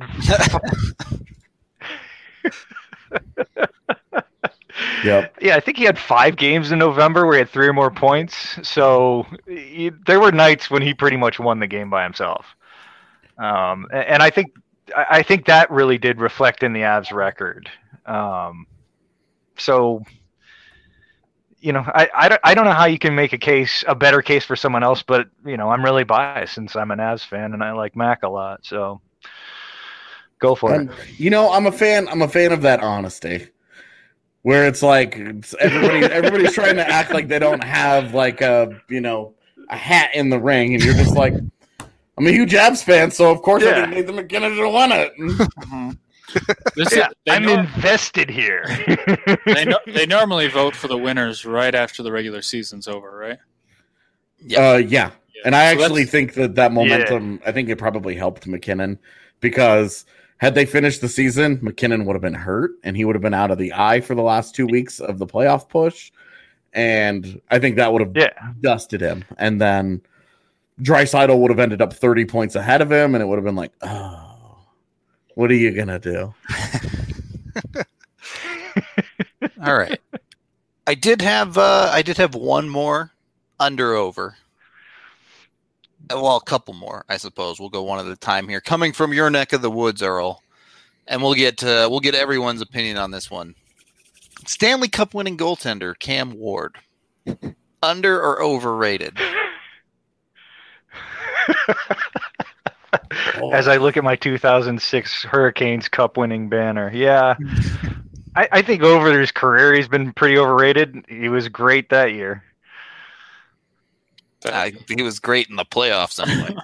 [SPEAKER 4] Yep.
[SPEAKER 2] Yeah, I think he had five games in November where he had three or more points. So he, there were nights when he pretty much won the game by himself. Um, and, and I think I I think that really did reflect in the Avs record. Um, so, you know, I, I, don't, I don't know how you can make a case, a better case for someone else, but, you know, I'm really biased since I'm an Avs fan and I like Mac a lot. So go for
[SPEAKER 4] I'm-
[SPEAKER 2] it.
[SPEAKER 4] you know, I'm a fan. I'm a fan of that honesty, where it's like it's everybody everybody's trying to act like they don't have like a you know a hat in the ring, and you're just like, I'm a huge Avs fan, so of course
[SPEAKER 2] Yeah.
[SPEAKER 4] I think Nathan MacKinnon should have won it.
[SPEAKER 3] This
[SPEAKER 2] Yeah,
[SPEAKER 3] is, they,
[SPEAKER 2] I'm
[SPEAKER 3] nor-
[SPEAKER 2] invested here.
[SPEAKER 3] they, no- they normally vote for the winners right after the regular season's over, right?
[SPEAKER 1] Yeah.
[SPEAKER 4] Uh, yeah. And I
[SPEAKER 3] So
[SPEAKER 4] actually
[SPEAKER 3] that's-
[SPEAKER 4] think that that momentum, I think it probably helped McKinnon, because had they finished the season, McKinnon would have been hurt and he would have been out of the eye for the last two weeks of the playoff push. And I think that would have
[SPEAKER 2] Yeah.
[SPEAKER 4] dusted him. And then Draisaitl would have ended up thirty points ahead of him, and it would have been like, oh, what are you going to do?
[SPEAKER 1] All right. I did have uh, I did have one more under over. Well, a couple more, I suppose. We'll go one at a time here. Coming from your neck of the woods, Earl, and we'll get uh, we'll get everyone's opinion on this one. Stanley Cup winning goaltender Cam Ward, under or overrated?
[SPEAKER 2] As I look at my two thousand six Hurricanes Cup winning banner, yeah, I, I think over his career he's been pretty overrated. He was great that year.
[SPEAKER 1] Uh, he was great in the playoffs anyway.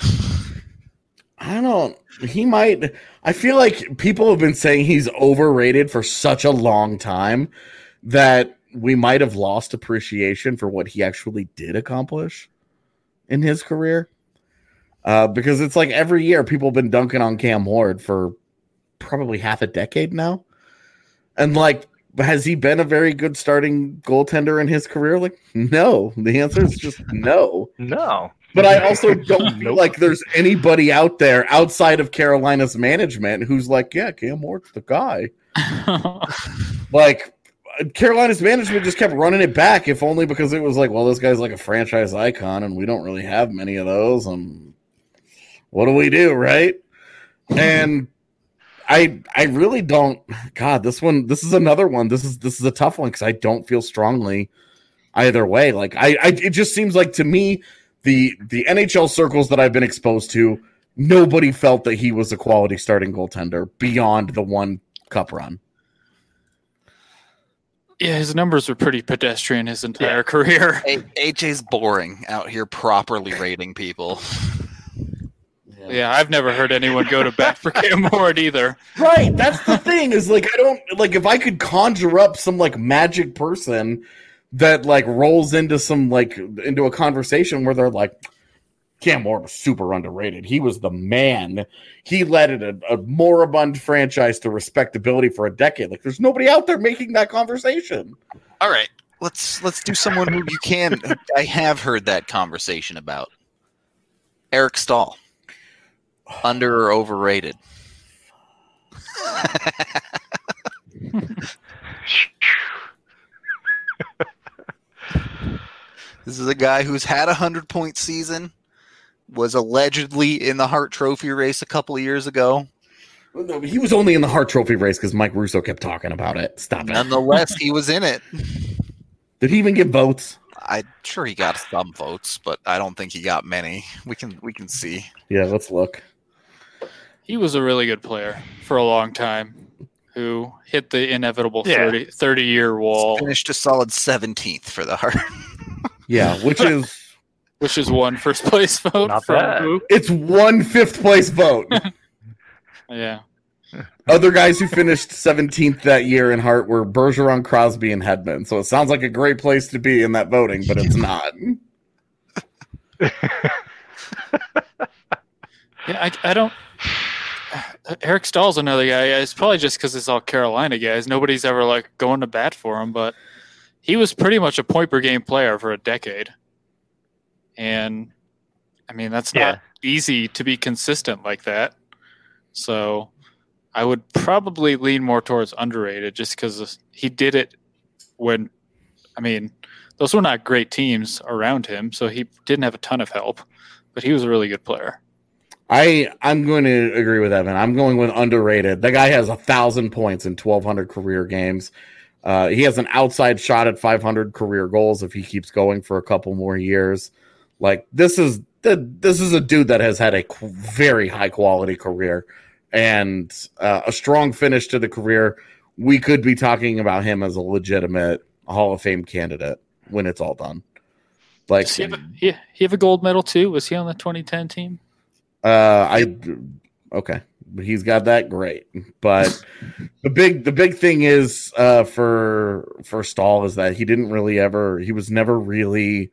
[SPEAKER 4] I don't. He might. I feel like people have been saying he's overrated for such a long time that we might have lost appreciation for what he actually did accomplish in his career. Uh, because it's like every year people have been dunking on Cam Ward for probably half a decade now. And like, has he been a very good starting goaltender in his career? Like, no. The answer is just no.
[SPEAKER 2] No.
[SPEAKER 4] But I also don't feel like there's anybody out there outside of Carolina's management who's like, yeah, Cam Ward's the guy. Like, Carolina's management just kept running it back, if only because it was like, well, this guy's like a franchise icon, and we don't really have many of those. And what do we do, right? And I I really don't. God, this one, this is another one. This is this is a tough one because I don't feel strongly either way. Like, I, I it just seems like to me, the the N H L circles that I've been exposed to, nobody felt that he was a quality starting goaltender beyond the one cup run.
[SPEAKER 3] Yeah, his numbers were pretty pedestrian his entire yeah. career.
[SPEAKER 1] A- AJ's boring out here properly rating people.
[SPEAKER 3] Yeah. yeah, I've never heard anyone go to bat for Cam Ward either.
[SPEAKER 4] Right, that's the thing is like I don't like if I could conjure up some like magic person that like rolls into some like into a conversation where they're like, Cam Ward was super underrated. He was the man. He led a, a moribund franchise to respectability for a decade. Like, there's nobody out there making that conversation.
[SPEAKER 1] All right, let's let's do someone who you can. I have heard that conversation about. Eric Stahl, under or overrated? This is a guy who's had a hundred-point season, was allegedly in the Hart Trophy race a couple of years ago.
[SPEAKER 4] No, he was only in the Hart Trophy race because Mike Russo kept talking about it. Stop it.
[SPEAKER 1] Nonetheless, he was in it.
[SPEAKER 4] Did he even get votes?
[SPEAKER 1] I'm sure he got some votes, but I don't think he got many. We can we can see.
[SPEAKER 4] Yeah, let's look.
[SPEAKER 3] He was a really good player for a long time who hit the inevitable yeah. thirty, thirty-year wall.
[SPEAKER 1] Finished a solid seventeenth for the Hart.
[SPEAKER 4] Yeah, which is...
[SPEAKER 3] Which is one first place vote.
[SPEAKER 2] Not
[SPEAKER 3] from
[SPEAKER 2] bad.
[SPEAKER 3] Who?
[SPEAKER 4] It's one fifth place vote.
[SPEAKER 3] Yeah.
[SPEAKER 4] Other guys who finished seventeenth that year in Hart were Bergeron, Crosby, and Hedman. So it sounds like a great place to be in that voting, but it's not.
[SPEAKER 3] Yeah, I, I don't. Eric Stahl's another guy. It's probably just because it's all Carolina guys. Nobody's ever like going to bat for him, but he was pretty much a point per game player for a decade. And I mean, that's not
[SPEAKER 2] yeah.
[SPEAKER 3] easy to be consistent like that. So I would probably lean more towards underrated just because he did it when, I mean, those were not great teams around him. So he didn't have a ton of help, but he was a really good player.
[SPEAKER 4] I, I'm going to agree with Evan. I'm going with underrated. The guy has a thousand points in twelve hundred career games. Uh, he has an outside shot at five hundred career goals if he keeps going for a couple more years. Like this is this is a dude that has had a very high quality career and uh, a strong finish to the career. We could be talking about him as a legitimate Hall of Fame candidate when it's all done. Like,
[SPEAKER 3] Does he have a, he, he have a gold medal too? Was he on the twenty ten team?
[SPEAKER 4] Uh, I okay, he's got that great. But the big the big thing is uh, for for Stahl is that he didn't really ever he was never really.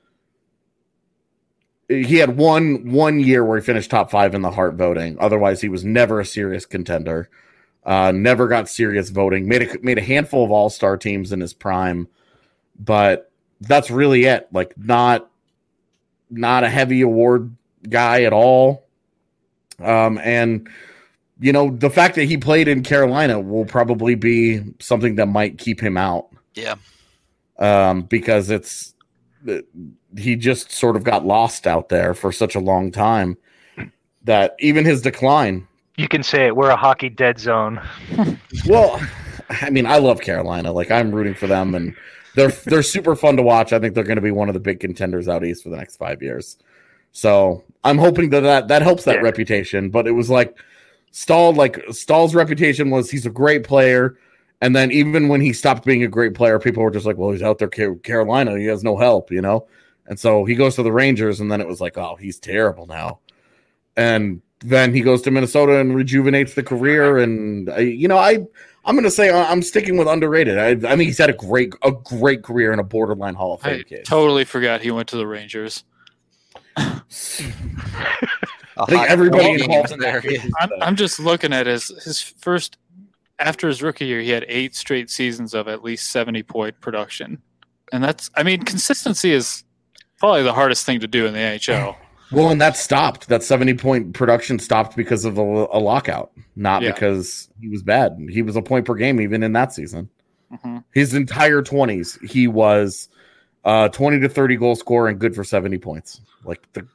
[SPEAKER 4] He had one one year where he finished top five in the Hart voting. Otherwise, he was never a serious contender. Uh, never got serious voting. Made a made a handful of All Star teams in his prime, but that's really it. Like not not a heavy award guy at all. Um, and you know, the fact that he played in Carolina will probably be something that might keep him out.
[SPEAKER 1] Yeah.
[SPEAKER 4] Um, because it's he just sort of got lost out there for such a long time that even his decline.
[SPEAKER 2] You can say it. We're a hockey dead zone.
[SPEAKER 4] Well, I mean, I love Carolina. Like, I'm rooting for them, and they're they're super fun to watch. I think they're going to be one of the big contenders out east for the next five years. So I'm hoping that that, that helps that yeah. reputation. But it was like Stahl, like Stahl's reputation was he's a great player. And then even when he stopped being a great player, people were just like, well, he's out there Carolina. He has no help, you know? And so he goes to the Rangers, and then it was like, oh, he's terrible now. And then he goes to Minnesota and rejuvenates the career. And, I, you know, I, I'm going to say I'm sticking with underrated. I, I think he's had a great a great career in a borderline Hall of Fame
[SPEAKER 3] I
[SPEAKER 4] case.
[SPEAKER 3] Totally forgot he went to the Rangers.
[SPEAKER 4] I think everybody involved in there.
[SPEAKER 3] I'm, I'm just looking at his, his first – after his rookie year, he had eight straight seasons of at least seventy-point production. And that's – I mean, consistency is probably the hardest thing to do in the N H L.
[SPEAKER 4] Well, and that stopped. That seventy-point production stopped because of a, a lockout, not yeah. because he was bad. He was a point per game even in that season. Mm-hmm. His entire twenties, he was uh, twenty to thirty goal scorer and good for seventy points. Like the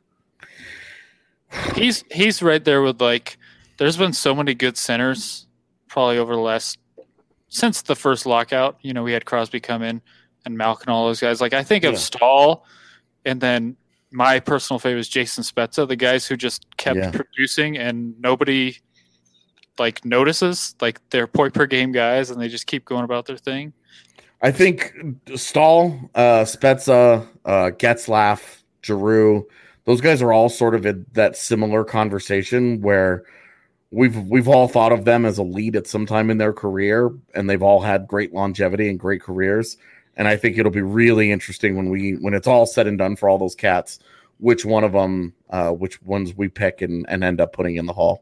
[SPEAKER 3] He's he's right there with, like, there's been so many good centers probably over the last – since the first lockout. You know, we had Crosby come in and Malkin, all those guys. Like, I think of yeah. Stahl and then – my personal favorite is Jason Spezza, the guys who just kept yeah. producing and nobody like notices, like they're point per game guys and they just keep going about their thing.
[SPEAKER 4] I think Stahl, uh, Spezza, uh, Getzlaf, Giroux, those guys are all sort of in that similar conversation where we've we've all thought of them as elite at some time in their career, and they've all had great longevity and great careers. And I think it'll be really interesting when we when it's all said and done for all those cats, which one of them, uh, which ones we pick and, and end up putting in the Hall.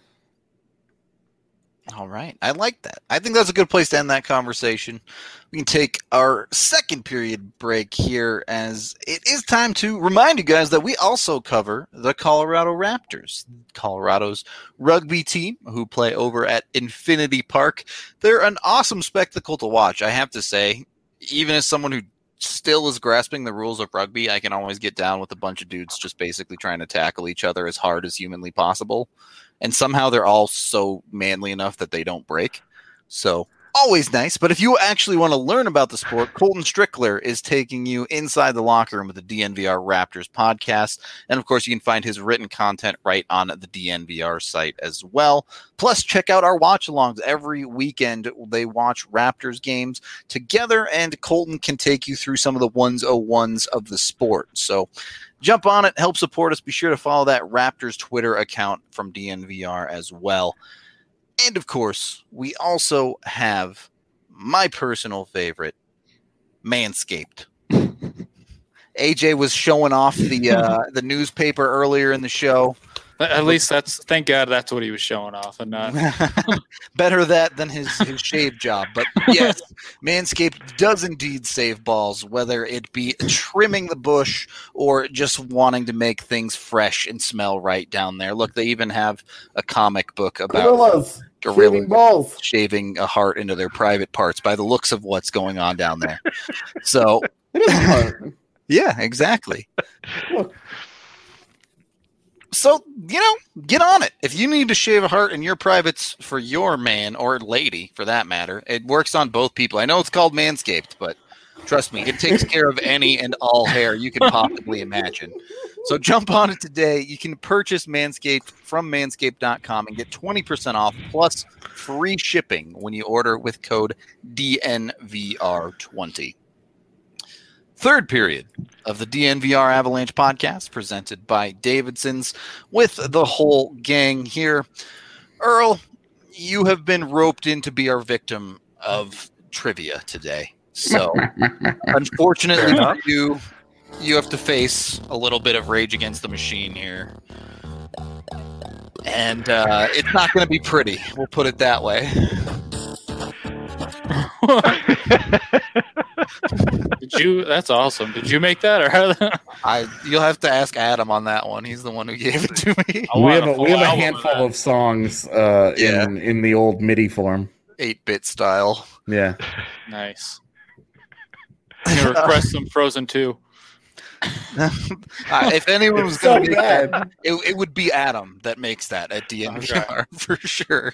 [SPEAKER 1] All right. I like that. I think that's a good place to end that conversation. We can take our second period break here, as it is time to remind you guys that we also cover the Colorado Raptors, Colorado's rugby team who play over at Infinity Park. They're an awesome spectacle to watch, I have to say. Even as someone who still is grasping the rules of rugby, I can always get down with a bunch of dudes just basically trying to tackle each other as hard as humanly possible. And somehow they're all so manly enough that they don't break. So always nice. But if you actually want to learn about the sport, Colton Strickler is taking you inside the locker room with the D N V R Raptors podcast. And of course, you can find his written content right on the D N V R site as well. Plus, check out our watch alongs every weekend. They watch Raptors games together, and Colton can take you through some of the ones oh ones of the sport. So jump on it, help support us. Be sure to follow that Raptors Twitter account from D N V R as well. And, of course, we also have my personal favorite, Manscaped. A J was showing off the uh, the newspaper earlier in the show.
[SPEAKER 3] At least that's – thank God that's what he was showing off and not –
[SPEAKER 1] Better that than his, his shave job. But, yes, Manscaped does indeed save balls, whether it be trimming the bush or just wanting to make things fresh and smell right down there. Look, they even have a comic book about
[SPEAKER 4] gorillas shaving balls,
[SPEAKER 1] shaving a heart into their private parts by the looks of what's going on down there. So,
[SPEAKER 4] it is a heart.
[SPEAKER 1] Yeah, exactly. So, you know, get on it. If you need to shave a heart in your privates for your man or lady, for that matter, it works on both people. I know it's called Manscaped, but trust me, it takes care of any and all hair you can possibly imagine. So jump on it today. You can purchase Manscaped from manscaped dot com and get twenty percent off plus free shipping when you order with code D N V R twenty. Third period of the D N V R Avalanche podcast presented by Davidson's with the whole gang here. Earl, you have been roped in to be our victim of trivia today. So unfortunately for you, you have to face a little bit of Rage Against the Machine here. And uh, it's not going to be pretty. We'll put it that way.
[SPEAKER 3] Did you? That's awesome. Did you make that, or how?
[SPEAKER 1] I you'll have to ask Adam on that one. He's the one who gave it to me.
[SPEAKER 3] I
[SPEAKER 4] We
[SPEAKER 3] want
[SPEAKER 4] have
[SPEAKER 3] a
[SPEAKER 4] a,
[SPEAKER 3] full
[SPEAKER 4] we have a
[SPEAKER 3] album of
[SPEAKER 4] handful
[SPEAKER 3] that.
[SPEAKER 4] of songs uh,
[SPEAKER 1] Yeah.
[SPEAKER 4] in in the old MIDI form.
[SPEAKER 1] eight-bit style.
[SPEAKER 4] Yeah.
[SPEAKER 3] Nice. I'm gonna request some Frozen two.
[SPEAKER 1] Uh, if anyone was
[SPEAKER 4] It's
[SPEAKER 1] going
[SPEAKER 4] so
[SPEAKER 1] to make that,
[SPEAKER 4] bad.
[SPEAKER 1] it, it would be Adam that makes that at D N V R for sure.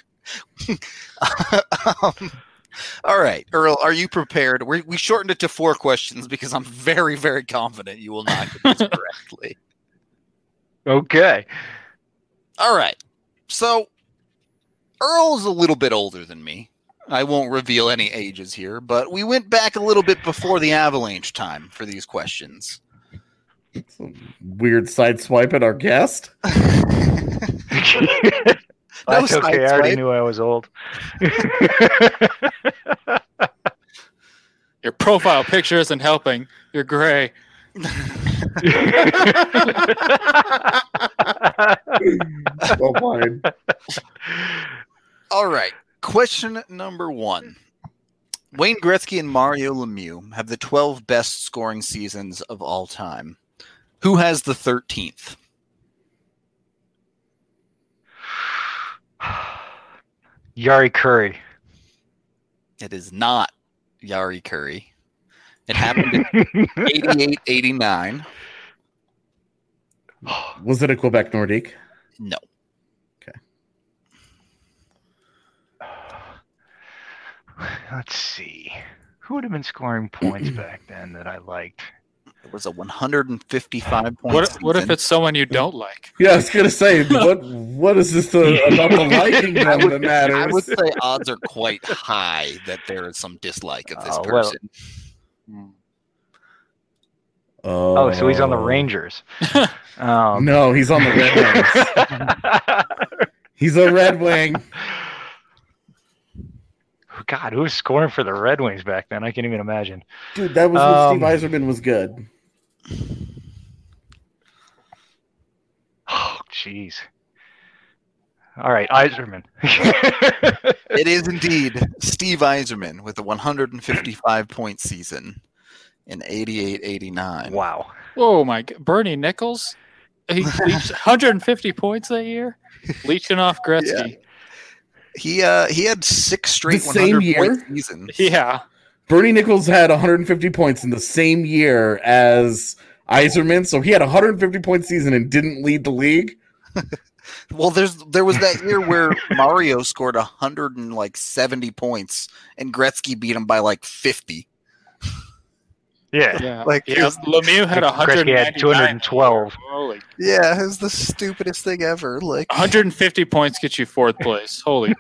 [SPEAKER 1] um, all right, Earl, are you prepared? We we shortened it to four questions because I'm very, very confident you will not get this correctly.
[SPEAKER 2] Okay.
[SPEAKER 1] All right, so Earl's a little bit older than me. I won't reveal any ages here, but we went back a little bit before the Avalanche time for these questions.
[SPEAKER 4] Weird side swipe at our guest.
[SPEAKER 2] That's
[SPEAKER 1] side
[SPEAKER 2] okay. I already
[SPEAKER 1] swipe.
[SPEAKER 2] knew I was old.
[SPEAKER 3] Your profile picture isn't helping. You're gray.
[SPEAKER 4] So fine.
[SPEAKER 1] All right. Question number one. Wayne Gretzky and Mario Lemieux have the twelve best scoring seasons of all time. Who has the thirteenth?
[SPEAKER 2] Yari Curry.
[SPEAKER 1] It is not Yari Curry. It happened in eighty-eight eighty-nine.
[SPEAKER 4] Was it a Quebec Nordique?
[SPEAKER 1] No.
[SPEAKER 2] Let's see. Who would have been scoring points back then that I liked?
[SPEAKER 1] It was a one hundred fifty-five point
[SPEAKER 3] What? What if
[SPEAKER 1] season.
[SPEAKER 3] it's someone you don't like?
[SPEAKER 4] Yeah, I was gonna say what what is this uh, about the liking them that
[SPEAKER 1] I
[SPEAKER 4] matters?
[SPEAKER 1] would say odds are quite high that there is some dislike of this
[SPEAKER 2] Oh, well.
[SPEAKER 1] person.
[SPEAKER 4] Oh,
[SPEAKER 2] Oh, so he's on the Rangers. Um,
[SPEAKER 4] No, he's on the Red Wings. He's a Red Wing.
[SPEAKER 2] God, who was scoring for the Red Wings back then? I can't even imagine.
[SPEAKER 4] Dude, that was when
[SPEAKER 2] Um,
[SPEAKER 4] Steve Yzerman was good.
[SPEAKER 2] Oh, jeez. All right, Iserman.
[SPEAKER 1] It is indeed Steve Yzerman with a one hundred fifty-five point season in eighty-eight eighty-nine.
[SPEAKER 2] Wow.
[SPEAKER 3] Oh my! g- Bernie Nichols, he reached one hundred fifty points that year, leeching off Gretzky.
[SPEAKER 1] He uh he had six straight
[SPEAKER 4] The same
[SPEAKER 1] one hundred point
[SPEAKER 4] year?
[SPEAKER 1] seasons.
[SPEAKER 3] Yeah.
[SPEAKER 4] Bernie Nichols had one hundred fifty points in the same year as Yzerman, so he had a one hundred fifty point season and didn't lead the league.
[SPEAKER 1] Well, there's there was that year where Mario scored one hundred seventy points and Gretzky beat him by like fifty.
[SPEAKER 2] Yeah.
[SPEAKER 3] Yeah.
[SPEAKER 1] Like,
[SPEAKER 3] yeah.
[SPEAKER 1] it's-
[SPEAKER 3] Lemieux had one hundred
[SPEAKER 2] Gretzky had two hundred twelve.
[SPEAKER 3] Holy.
[SPEAKER 1] Yeah, it was the stupidest thing ever. Like
[SPEAKER 3] one hundred fifty points get you fourth place. Holy.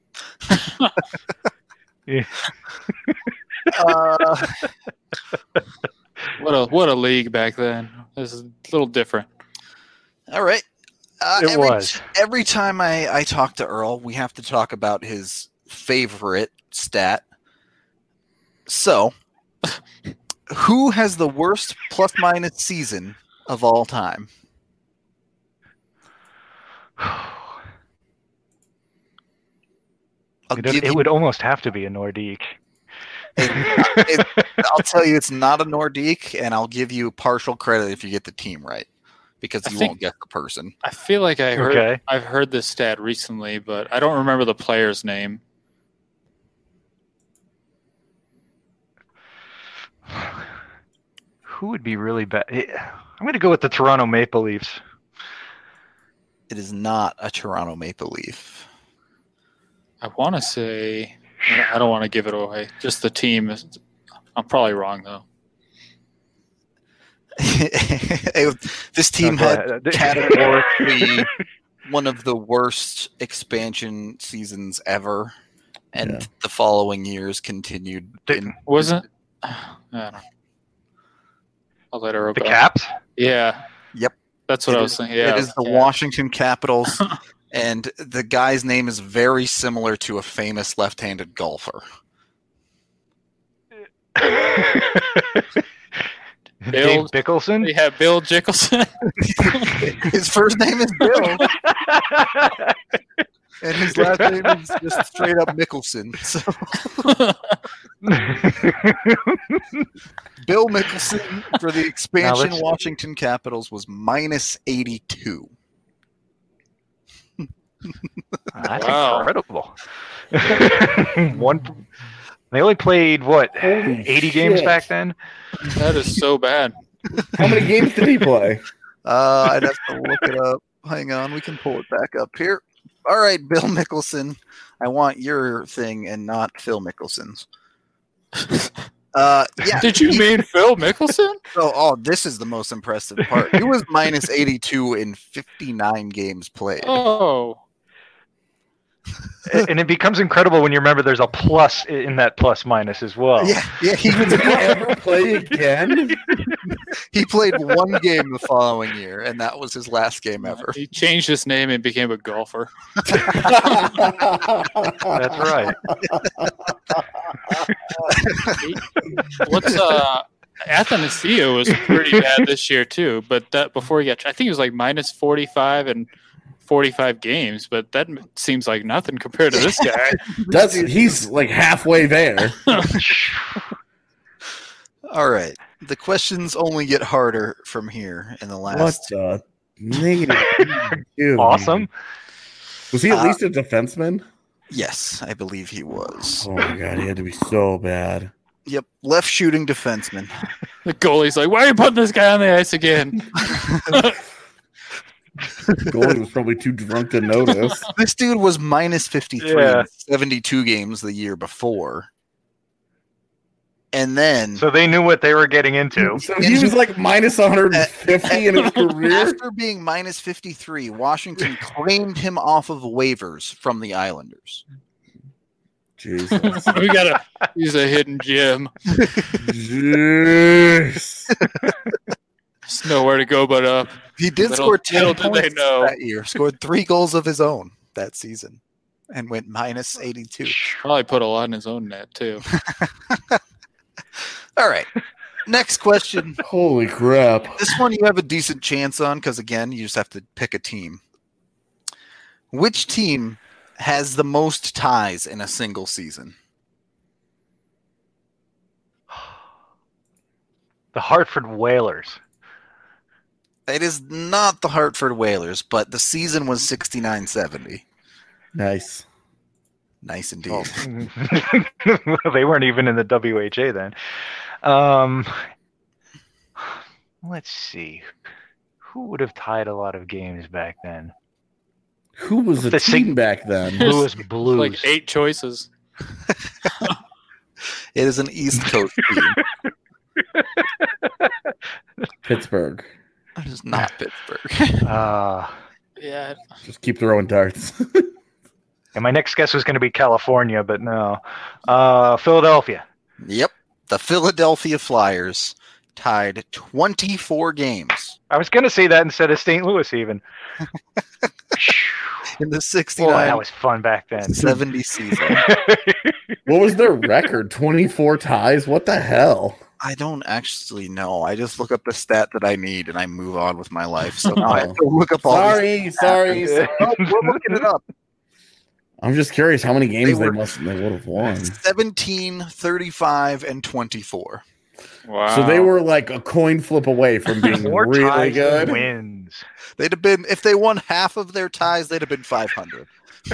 [SPEAKER 1] uh,
[SPEAKER 3] What a what a league back then. This is a little different.
[SPEAKER 1] all right. Uh,
[SPEAKER 2] It
[SPEAKER 1] every,
[SPEAKER 2] was.
[SPEAKER 1] every time I, I talk to Earl, we have to talk about his favorite stat. So, who has the worst plus minus season of all time? I'll,
[SPEAKER 2] It,
[SPEAKER 1] give
[SPEAKER 2] it
[SPEAKER 1] you,
[SPEAKER 2] would almost have to be a Nordique.
[SPEAKER 1] it- I'll tell you it's not a Nordique, and I'll give you partial credit if you get the team right, because
[SPEAKER 3] I
[SPEAKER 1] you
[SPEAKER 3] think-
[SPEAKER 1] won't get the person.
[SPEAKER 3] I feel like I heard
[SPEAKER 2] Okay.
[SPEAKER 3] I've heard this stat recently, but I don't remember the player's name.
[SPEAKER 2] Who would be really bad? I'm going to go with the Toronto Maple Leafs.
[SPEAKER 1] It is not a Toronto Maple Leaf.
[SPEAKER 3] I want to say I don't want to give it away. Just the team. is- I'm probably wrong though.
[SPEAKER 1] This team
[SPEAKER 2] Okay.
[SPEAKER 1] had categorically one of the worst expansion seasons ever, and
[SPEAKER 4] Yeah.
[SPEAKER 1] the following years continued. In,
[SPEAKER 3] Wasn't? I don't know. I'll let her
[SPEAKER 2] The
[SPEAKER 3] go.
[SPEAKER 2] Caps?
[SPEAKER 3] Yeah.
[SPEAKER 1] Yep.
[SPEAKER 3] That's what
[SPEAKER 1] It
[SPEAKER 3] I
[SPEAKER 1] is-
[SPEAKER 3] was saying. Yeah.
[SPEAKER 1] it is the
[SPEAKER 3] yeah.
[SPEAKER 1] Washington Capitals, and the guy's name is very similar to a famous left-handed golfer.
[SPEAKER 3] Bill-
[SPEAKER 2] Dave Bickelson?
[SPEAKER 3] We have Bill Jickelson.
[SPEAKER 1] His first name is Bill, and his last name is just straight up Mickelson. So Bill Mickelson for the expansion
[SPEAKER 2] let's-
[SPEAKER 1] Washington Capitals was minus eighty-two.
[SPEAKER 2] That's
[SPEAKER 3] Wow.
[SPEAKER 2] incredible. One. They only played what
[SPEAKER 4] Holy
[SPEAKER 2] eighty games
[SPEAKER 4] shit.
[SPEAKER 2] back then.
[SPEAKER 3] That is so bad.
[SPEAKER 4] How many games did he play?
[SPEAKER 1] Uh, I'd have to look it up. Hang on, we can pull it back up here. All right, Bill Mickelson. I want your thing and not Phil Mickelson's. Uh, yeah.
[SPEAKER 3] Did you
[SPEAKER 1] he-
[SPEAKER 3] mean Phil Mickelson?
[SPEAKER 1] Oh, oh, this is the most impressive part. He was minus eighty-two in fifty-nine games played.
[SPEAKER 3] Oh,
[SPEAKER 2] And it becomes incredible when you remember there's a plus in that plus minus as well.
[SPEAKER 1] Yeah, yeah. He was,
[SPEAKER 4] Did he ever play again?
[SPEAKER 1] he played one game the following year, and that was his last game ever.
[SPEAKER 3] he changed his name and became a golfer.
[SPEAKER 2] That's right.
[SPEAKER 3] What's uh Athanasio was pretty bad this year too, but that before he got, I think it was like minus forty-five and forty-five games, but that seems like nothing compared to this guy.
[SPEAKER 4] That's he's like halfway there.
[SPEAKER 1] All right. The questions only get harder from here in the
[SPEAKER 4] What
[SPEAKER 1] last.
[SPEAKER 4] the negative? Dude.
[SPEAKER 2] Awesome.
[SPEAKER 4] Was he at
[SPEAKER 1] Uh,
[SPEAKER 4] least a defenseman?
[SPEAKER 1] Yes, I believe he was.
[SPEAKER 4] Oh my god, he had to be so bad.
[SPEAKER 1] Yep, left shooting defenseman.
[SPEAKER 3] The goalie's like, "Why are you putting this guy on the ice again?"
[SPEAKER 4] Goalie was probably too drunk to notice.
[SPEAKER 1] This dude was minus fifty-three
[SPEAKER 2] Yeah.
[SPEAKER 1] in seventy-two games the year before. And then
[SPEAKER 2] So they knew what they were getting into.
[SPEAKER 4] So he was like minus one hundred fifty in his career.
[SPEAKER 1] after being minus fifty-three, Washington claimed him off of waivers from the Islanders.
[SPEAKER 4] Jesus.
[SPEAKER 3] We gotta use a hidden gem.
[SPEAKER 4] Jeez.
[SPEAKER 3] There's nowhere to go but up.
[SPEAKER 1] He did
[SPEAKER 3] Little-
[SPEAKER 1] score ten
[SPEAKER 3] little did they
[SPEAKER 1] points
[SPEAKER 3] know.
[SPEAKER 1] that year, scored three goals of his own that season, and went minus eighty-two.
[SPEAKER 3] Probably put a lot in his own net too.
[SPEAKER 1] All right. Next question.
[SPEAKER 4] Holy crap.
[SPEAKER 1] This one you have a decent chance on because, again, you just have to pick a team. Which team has the most ties in a single season?
[SPEAKER 2] The Hartford Whalers.
[SPEAKER 1] It is not the Hartford Whalers, but the season was sixty-nine seventy.
[SPEAKER 4] Nice.
[SPEAKER 1] Nice indeed.
[SPEAKER 2] Well, they weren't even in the W H A then. Um, let's see. Who would have tied a lot of games back then?
[SPEAKER 4] Who was the
[SPEAKER 2] The
[SPEAKER 4] team
[SPEAKER 2] sing-
[SPEAKER 4] back then?
[SPEAKER 2] Louis Blues.
[SPEAKER 3] Like eight choices.
[SPEAKER 1] It is an East Coast team.
[SPEAKER 4] Pittsburgh.
[SPEAKER 1] It is not Pittsburgh.
[SPEAKER 2] Uh,
[SPEAKER 3] Yeah.
[SPEAKER 4] Just keep throwing darts.
[SPEAKER 2] and my next guess was going to be California, but no. Uh, Philadelphia.
[SPEAKER 1] Yep. The Philadelphia Flyers tied twenty-four games
[SPEAKER 2] I was going to say that instead of Saint Louis even.
[SPEAKER 1] in the
[SPEAKER 2] Boy,
[SPEAKER 1] sixty-nine
[SPEAKER 2] that was fun back then.
[SPEAKER 1] seventy season.
[SPEAKER 4] What was their record? twenty-four ties? What the hell?
[SPEAKER 1] I don't actually know. I just look up the stat that I need and I move on with my life. So now I have to look up all these.
[SPEAKER 4] Sorry, sorry. sorry.
[SPEAKER 1] Oh, we're looking it up.
[SPEAKER 4] I'm just curious how many games
[SPEAKER 1] They
[SPEAKER 4] they,
[SPEAKER 1] were-
[SPEAKER 4] must they would have won.
[SPEAKER 1] seventeen, thirty-five, and twenty-four.
[SPEAKER 3] Wow.
[SPEAKER 4] So they were like a coin flip away from being
[SPEAKER 2] More
[SPEAKER 4] really
[SPEAKER 2] ties than
[SPEAKER 4] good.
[SPEAKER 2] wins.
[SPEAKER 1] They'd have been, if they won half of their ties, they'd have been five hundred.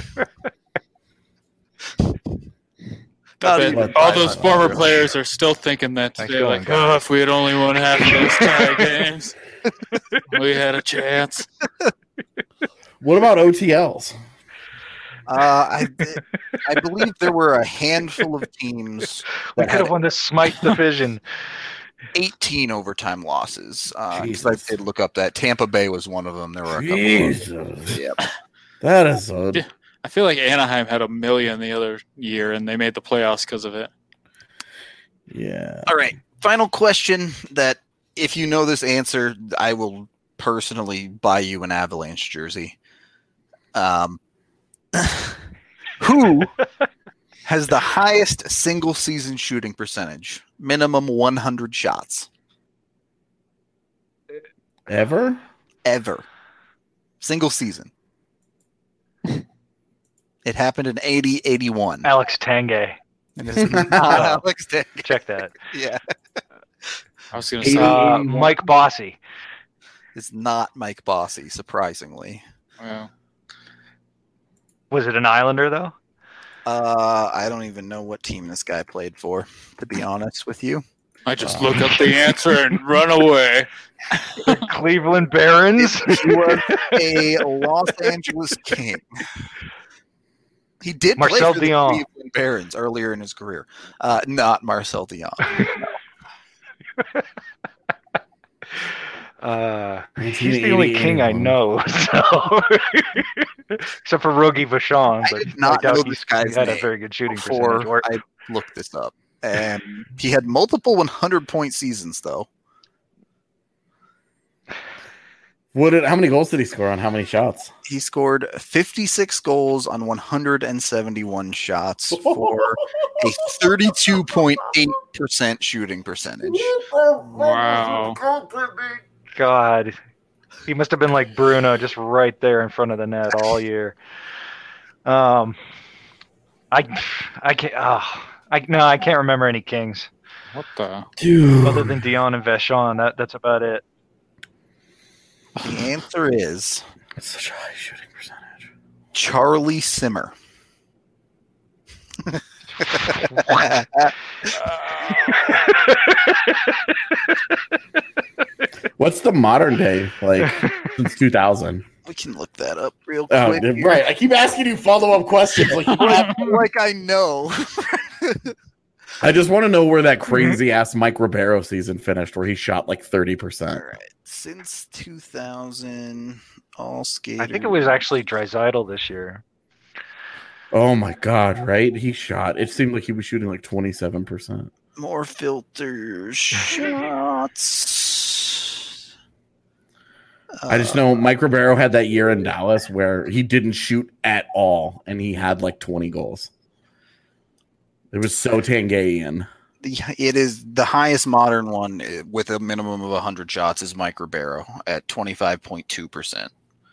[SPEAKER 3] I
[SPEAKER 1] Not
[SPEAKER 3] bet
[SPEAKER 1] even
[SPEAKER 3] all those
[SPEAKER 1] five hundred.
[SPEAKER 3] former players are still thinking that
[SPEAKER 2] Thanks
[SPEAKER 3] today.
[SPEAKER 2] for
[SPEAKER 3] Like,
[SPEAKER 2] going,
[SPEAKER 3] oh,
[SPEAKER 2] guys."
[SPEAKER 3] if we had only won half of those tie games, we had a chance.
[SPEAKER 4] What about O T Ls?
[SPEAKER 1] Uh, I, I believe there were a handful of teams
[SPEAKER 2] We
[SPEAKER 1] that
[SPEAKER 2] could have
[SPEAKER 1] had
[SPEAKER 2] won the Smite division.
[SPEAKER 1] eighteen overtime losses. Uh, 'cause I
[SPEAKER 4] Jesus.
[SPEAKER 1] did look up that Tampa Bay was one of them. There were a couple.
[SPEAKER 4] Jesus.
[SPEAKER 1] Of, yep.
[SPEAKER 4] That is a
[SPEAKER 3] Yeah. I feel like Anaheim had a million the other year, and they made the playoffs because of it.
[SPEAKER 4] yeah.
[SPEAKER 1] All right. Final question that if you know this answer, I will personally buy you an Avalanche jersey. Um, who has the highest single season shooting percentage? Minimum one hundred shots
[SPEAKER 4] Ever?
[SPEAKER 1] ever. Single season. It happened in eighty eighty-one.
[SPEAKER 2] Alex Tanguay.
[SPEAKER 1] And it's not Alex Dick.
[SPEAKER 2] Check that.
[SPEAKER 1] Yeah.
[SPEAKER 3] I was going to say,
[SPEAKER 2] Uh, Mike Bossy.
[SPEAKER 1] It's not Mike Bossy, surprisingly.
[SPEAKER 3] well,
[SPEAKER 2] Was it an Islander, though?
[SPEAKER 1] Uh, I don't even know what team this guy played for, to be honest with you.
[SPEAKER 3] I just look up the answer and run away.
[SPEAKER 2] Cleveland Barons.
[SPEAKER 1] He was a Los Angeles King. He did
[SPEAKER 2] Marcel
[SPEAKER 1] play for
[SPEAKER 2] Dion.
[SPEAKER 1] the Cleveland Barons earlier in his career. Uh, not Marcel Dion.
[SPEAKER 2] Uh, he's the only king I know, so except for Rogi Vachon,
[SPEAKER 1] I
[SPEAKER 2] but
[SPEAKER 1] did not
[SPEAKER 2] I doubt
[SPEAKER 1] know
[SPEAKER 2] he's-
[SPEAKER 1] this guy's
[SPEAKER 2] he had
[SPEAKER 1] name
[SPEAKER 2] a very good shooting
[SPEAKER 1] before
[SPEAKER 2] percentage. Or,
[SPEAKER 1] I looked this up. And he had multiple hundred point seasons, though.
[SPEAKER 4] What did? How many goals did he score on how many shots?
[SPEAKER 1] He scored fifty-six goals on one hundred seventy-one shots for a thirty-two point eight percent shooting percentage.
[SPEAKER 3] Wow.
[SPEAKER 2] God, he must have been like Bruno, just right there in front of the net all year. Um, I, I can't. Oh, I no, I can't remember any kings
[SPEAKER 3] What the?
[SPEAKER 4] Dude.
[SPEAKER 2] other than Dion and Vachon. That that's about it.
[SPEAKER 1] The answer is
[SPEAKER 4] That's such a high shooting percentage.
[SPEAKER 1] Charlie Simmer.
[SPEAKER 4] What's the modern day like since two thousand?
[SPEAKER 1] We can look that up real
[SPEAKER 4] Oh,
[SPEAKER 1] quick. here.
[SPEAKER 4] right. I keep asking you follow up questions. Like, you don't have-
[SPEAKER 1] Like I know.
[SPEAKER 4] I just want to know where that crazy ass Mike Ribeiro season finished, where he shot like thirty
[SPEAKER 1] All
[SPEAKER 4] percent.
[SPEAKER 1] right. Since two thousand, all skaters.
[SPEAKER 2] I think it was actually Draisaitl this year.
[SPEAKER 4] Oh my god! Right? He shot. It seemed like he was shooting like twenty seven percent.
[SPEAKER 1] more filters shots.
[SPEAKER 4] I just know Mike Ribeiro had that year in Dallas where he didn't shoot at all, and he had like twenty goals. It was so Tangayian.
[SPEAKER 1] The, it is the highest modern one uh, with a minimum of one hundred shots is Mike Ribeiro at twenty-five point two percent.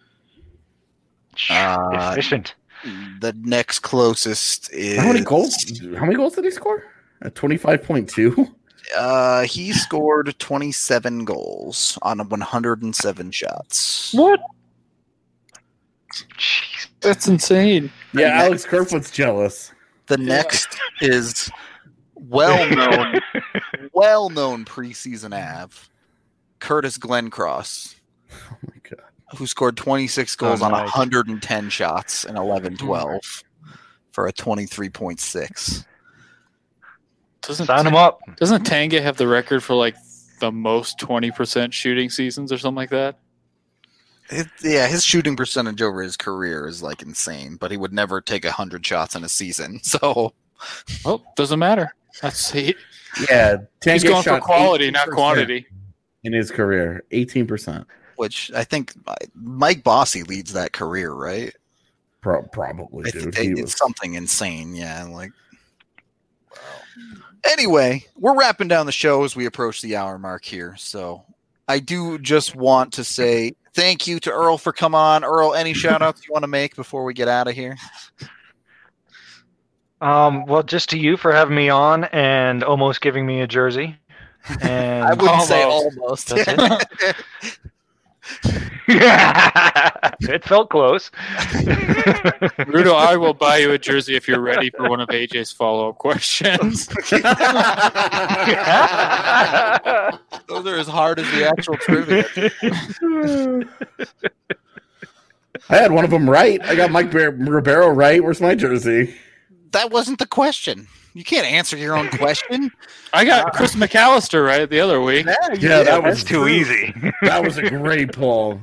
[SPEAKER 1] Uh,
[SPEAKER 2] Efficient.
[SPEAKER 1] The next closest is
[SPEAKER 4] How many goals? How many goals did he score? At twenty five point two.
[SPEAKER 1] Uh, he scored twenty-seven goals on one hundred seven shots.
[SPEAKER 3] What?
[SPEAKER 2] Jeez.
[SPEAKER 3] That's insane.
[SPEAKER 4] Yeah,
[SPEAKER 1] And
[SPEAKER 4] Alex Kerfoot's jealous.
[SPEAKER 1] The next is well-known, well-known preseason Av, Curtis Glencross,
[SPEAKER 4] Oh my god.
[SPEAKER 1] who scored twenty-six goals
[SPEAKER 2] Oh,
[SPEAKER 1] on
[SPEAKER 2] nice.
[SPEAKER 1] one hundred ten shots in eleven twelve for a twenty-three point six.
[SPEAKER 3] Doesn't
[SPEAKER 2] Sign him up.
[SPEAKER 3] Doesn't Tanga have the record for like the most twenty percent shooting seasons or something like that?
[SPEAKER 1] It, yeah, his shooting percentage over his career is like insane, but he would never take one hundred shots in a season. So,
[SPEAKER 3] Well, doesn't matter. That's he,
[SPEAKER 4] Yeah,
[SPEAKER 3] he's
[SPEAKER 4] Tanguay
[SPEAKER 3] going for
[SPEAKER 4] shot
[SPEAKER 3] quality, not
[SPEAKER 4] eighteen percent
[SPEAKER 3] quantity.
[SPEAKER 4] in his career. eighteen percent.
[SPEAKER 1] which I think uh, Mike Bossy leads that career, right?
[SPEAKER 4] Pro- probably,
[SPEAKER 1] I
[SPEAKER 4] dude.
[SPEAKER 1] think
[SPEAKER 4] He
[SPEAKER 1] it's
[SPEAKER 4] was
[SPEAKER 1] something insane. Yeah, like. Anyway, we're wrapping down the show as we approach the hour mark here. So I do just want to say thank you to Earl for coming on. Earl, any shout outs you want to make before we get out of here?
[SPEAKER 2] Um, well, just to you for having me on and almost giving me a jersey. And
[SPEAKER 1] I wouldn't say
[SPEAKER 3] Almost.
[SPEAKER 1] almost.
[SPEAKER 2] That's it felt close.
[SPEAKER 3] Rudo, I will buy you a jersey if you're ready for one of A J's follow up questions.
[SPEAKER 1] Those are as hard as the actual trivia.
[SPEAKER 4] I had one of them right. I got Mike Bar- Ribeiro right. Where's my jersey?
[SPEAKER 1] That wasn't the question. You can't answer your own question.
[SPEAKER 3] I got Chris McAllister right the other week.
[SPEAKER 4] Yeah, that was
[SPEAKER 2] That's too easy.
[SPEAKER 4] That was a great pull.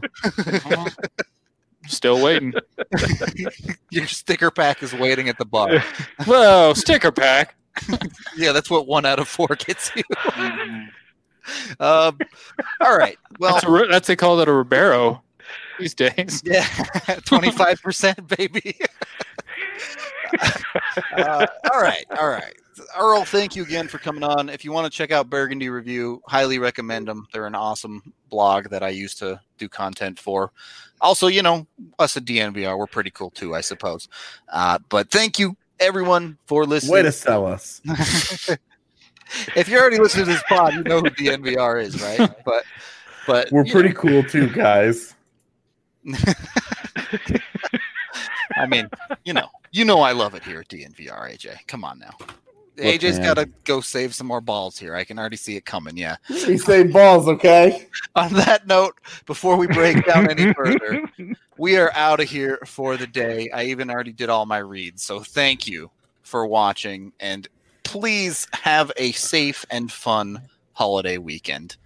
[SPEAKER 3] Still waiting.
[SPEAKER 1] Your sticker pack is waiting at the bar.
[SPEAKER 3] Whoa, sticker pack.
[SPEAKER 1] Yeah, that's what one out of four gets you. um, all right. Well,
[SPEAKER 3] That's, a, that's they call that a Ribeiro these days.
[SPEAKER 1] yeah, twenty-five percent, baby. uh, all right, all right. Earl, thank you again for coming on. If you want to check out Burgundy Review, highly recommend them. They're an awesome blog that I used to do content for. Also, you know, us at D N V R, we're pretty cool too, I suppose. Uh, but thank you everyone for listening.
[SPEAKER 4] Way to sell us.
[SPEAKER 1] If you're already listening to this pod, you know who D N V R is, right? But but
[SPEAKER 4] we're pretty
[SPEAKER 1] know.
[SPEAKER 4] cool too, guys.
[SPEAKER 1] I mean, you know, you know I love it here at D N V R, A J. Come on now. Look, A J's got to go save some more balls here. I can already see it coming, yeah.
[SPEAKER 4] He saved balls, okay?
[SPEAKER 1] On that note, before we break down any further, we are out of here for the day. I even already did all my reads, so thank you for watching, and please have a safe and fun holiday weekend.